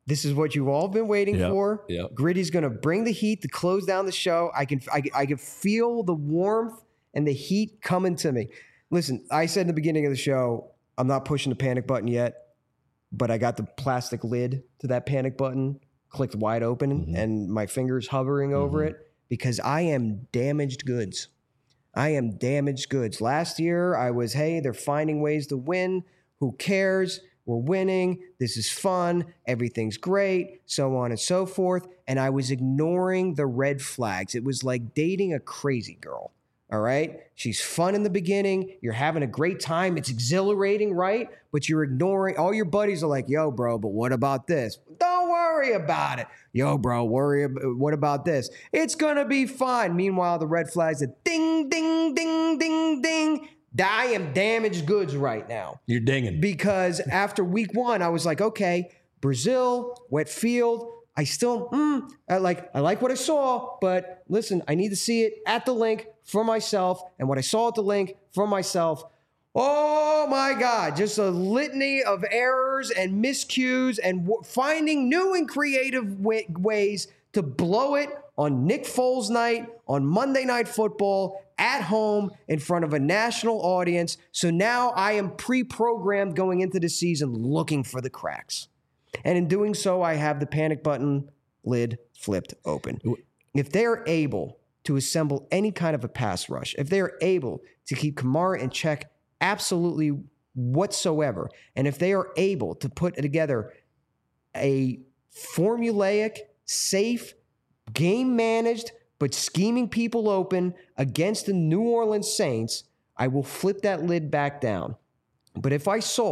This is what you've all been waiting for. Yep. Gritty's going to bring the heat to close down the show. I can feel the warmth and the heat coming to me. Listen, I said in the beginning of the show, I'm not pushing the panic button yet, but I got the plastic lid to that panic button clicked wide open and my fingers hovering over it because I am damaged goods. I am damaged goods. Last year, I was, hey, they're finding ways to win. Who cares? We're winning. This is fun. Everything's great, so on and so forth. And I was ignoring the red flags. It was like dating a crazy girl. All right. She's fun in the beginning. You're having a great time. It's exhilarating, right? But you're ignoring. All your buddies are like, yo, bro, but what about this? Don't worry about it. Yo, bro, what about this? It's going to be fine. Meanwhile, the red flags are ding, ding, ding, ding, ding. I am damaged goods right now. You're dinging. Because after week 1, I was like, okay, Brazil, wet field. I still, I like what I saw, but listen, I need to see it at the link for myself. And what I saw at the link for myself, oh my God, just a litany of errors and miscues and finding new and creative ways to blow it on Nick Foles night, on Monday Night Football, at home, in front of a national audience. So now I am pre-programmed going into the season looking for the cracks. And in doing so, I have the panic button lid flipped open. If they're able to assemble any kind of a pass rush, if they're able to keep Kamara in check absolutely whatsoever, and if they are able to put together a formulaic, safe, game-managed, but scheming people open against the New Orleans Saints, I will flip that lid back down. But if I see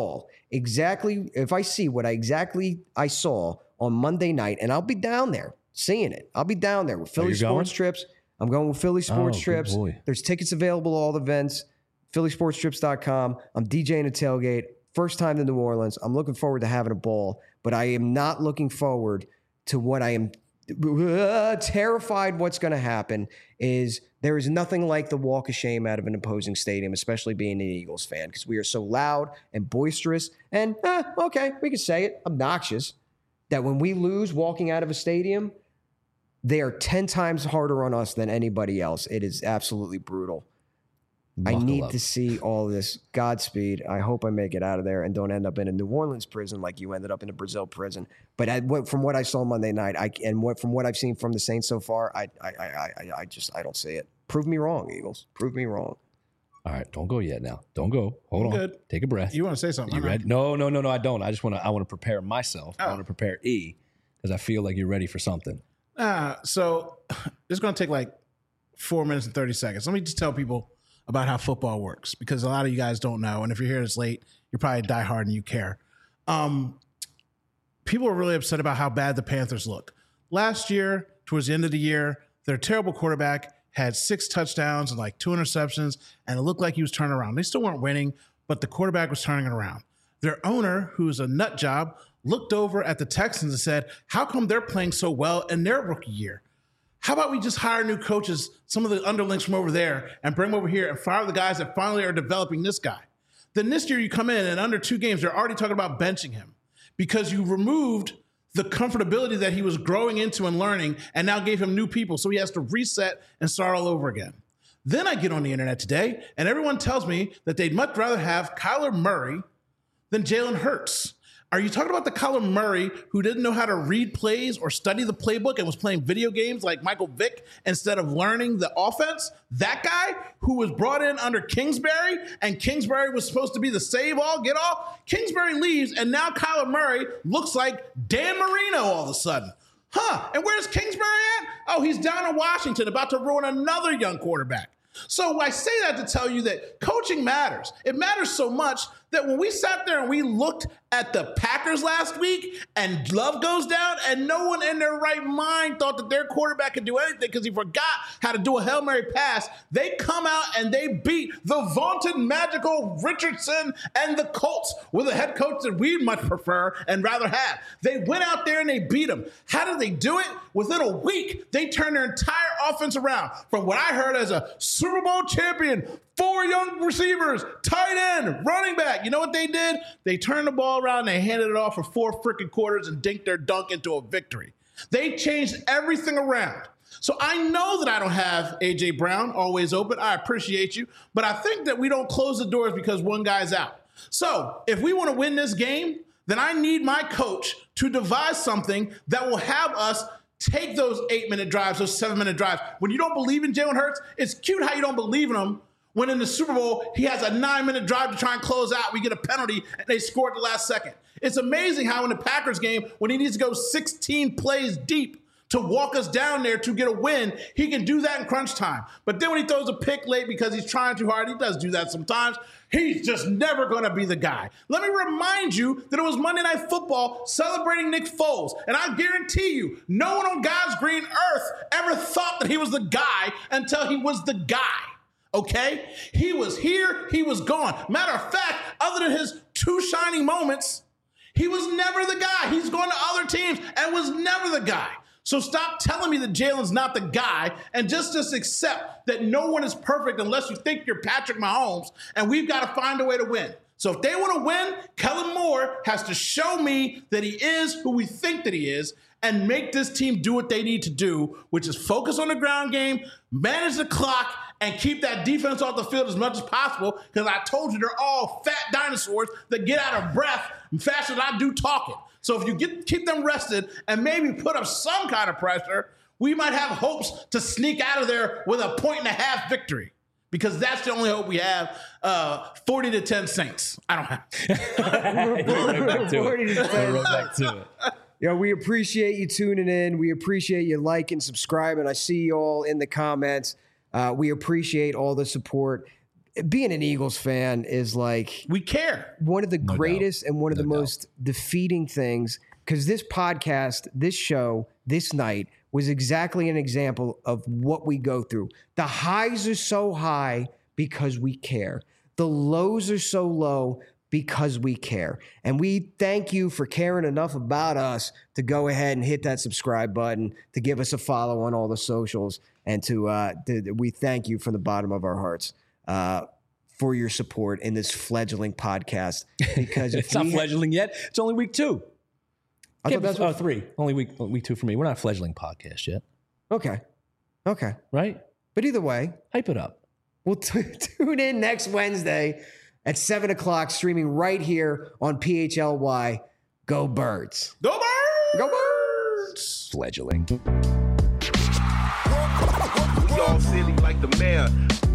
what I saw on Monday night, and I'll be down there seeing it. I'll be down there with Philly Sports Trips. I'm going with Philly Sports Trips. There's tickets available to all the events. PhillySportsTrips.com. I'm DJing a tailgate. First time to New Orleans. I'm looking forward to having a ball, but I am not looking forward to what I am terrified what's going to happen is there is nothing like the walk of shame out of an opposing stadium, especially being an Eagles fan, because we are so loud and boisterous and, okay, we can say it, obnoxious, that when we lose walking out of a stadium, they are 10 times harder on us than anybody else. It is absolutely brutal. I need to see all this. Godspeed. I hope I make it out of there and don't end up in a New Orleans prison like you ended up in a Brazil prison. But from what I saw Monday night, from what I've seen from the Saints so far, I don't see it. Prove me wrong, Eagles. Prove me wrong. All right, don't go yet now. Don't go. Hold on. Good. Take a breath. You want to say something? You ready? No, I don't. I want to prepare myself. I want to prepare E because I feel like you're ready for something. So it's going to take like 4 minutes and 30 seconds. Let me just tell people about how football works, because a lot of you guys don't know. And if you're here this late, you're probably diehard and you care. People are really upset about how bad the Panthers look. Last year, towards the end of the year, their terrible quarterback had 6 touchdowns and like 2 interceptions, and it looked like he was turning around. They still weren't winning, but the quarterback was turning it around. Their owner, who's a nut job, looked over at the Texans and said, how come they're playing so well in their rookie year? How about we just hire new coaches, some of the underlings from over there, and bring them over here and fire the guys that finally are developing this guy? Then this year you come in and under 2 games, they're already talking about benching him because you removed the comfortability that he was growing into and learning and now gave him new people. So he has to reset and start all over again. Then I get on the internet today and everyone tells me that they'd much rather have Kyler Murray than Jalen Hurts. Are you talking about the Kyler Murray who didn't know how to read plays or study the playbook and was playing video games like Michael Vick instead of learning the offense? That guy who was brought in under Kingsbury, and Kingsbury was supposed to be the save-all, get-all? Kingsbury leaves, and now Kyler Murray looks like Dan Marino all of a sudden. And where's Kingsbury at? Oh, he's down in Washington about to ruin another young quarterback. So I say that to tell you that coaching matters. It matters so much that when we sat there and we looked at the Packers last week and Love goes down and no one in their right mind thought that their quarterback could do anything because he forgot how to do a Hail Mary pass, they come out and they beat the vaunted magical Richardson and the Colts with a head coach that we'd much prefer and rather have. They went out there and they beat them. How did they do it? Within a week, they turned their entire offense around from what I heard as a Super Bowl champion, 4 young receivers, tight end, running back. that. You know what they did? They turned the ball around and they handed it off for 4 freaking quarters and dinked their dunk into a victory. They changed everything around. So I know that I don't have A.J. Brown always open. I appreciate you. But I think that we don't close the doors because one guy's out. So if we want to win this game, then I need my coach to devise something that will have us take those 8-minute drives, those 7-minute drives. When you don't believe in Jalen Hurts, it's cute how you don't believe in him when in the Super Bowl, he has a 9-minute drive to try and close out. We get a penalty, and they score at the last second. It's amazing how in the Packers game, when he needs to go 16 plays deep to walk us down there to get a win, he can do that in crunch time. But then when he throws a pick late because he's trying too hard, he does do that sometimes, he's just never going to be the guy. Let me remind you that it was Monday Night Football celebrating Nick Foles. And I guarantee you, no one on God's green earth ever thought that he was the guy until he was the guy. Okay? He was here, he was gone. Matter of fact, other than his 2 shining moments, he was never the guy. He's going to other teams and was never the guy. So stop telling me that Jalen's not the guy and just accept that no one is perfect unless you think you're Patrick Mahomes, and we've got to find a way to win. So if they want to win, Kellen Moore has to show me that he is who we think that he is and make this team do what they need to do, which is focus on the ground game, manage the clock, and keep that defense off the field as much as possible, because I told you they're all fat dinosaurs that get out of breath faster than I do talking. So if you keep them rested and maybe put up some kind of pressure, we might have hopes to sneak out of there with a 1.5 victory, because that's the only hope we have. 40-10 Saints. I don't have. Right back to it. Yeah, we appreciate you tuning in. We appreciate you liking, subscribing. I see you all in the comments. We appreciate all the support. Being an Eagles fan is like, we care. One of the greatest and one of the most defeating things, because this podcast, this show, this night was exactly an example of what we go through. The highs are so high because we care. The lows are so low because we care. And we thank you for caring enough about us to go ahead and hit that subscribe button, to give us a follow on all the socials, and we thank you from the bottom of our hearts for your support in this fledgling podcast. Because it's not fledgling yet. It's only week 2. I thought that's 3. Only week 2 for me. We're not a fledgling podcast yet. Okay. Right? But either way, hype it up. We'll tune in next Wednesday at 7 o'clock, streaming right here on PHLY. Go Birds. Go Birds! Go Birds! Fledgling. We all silly like the mayor.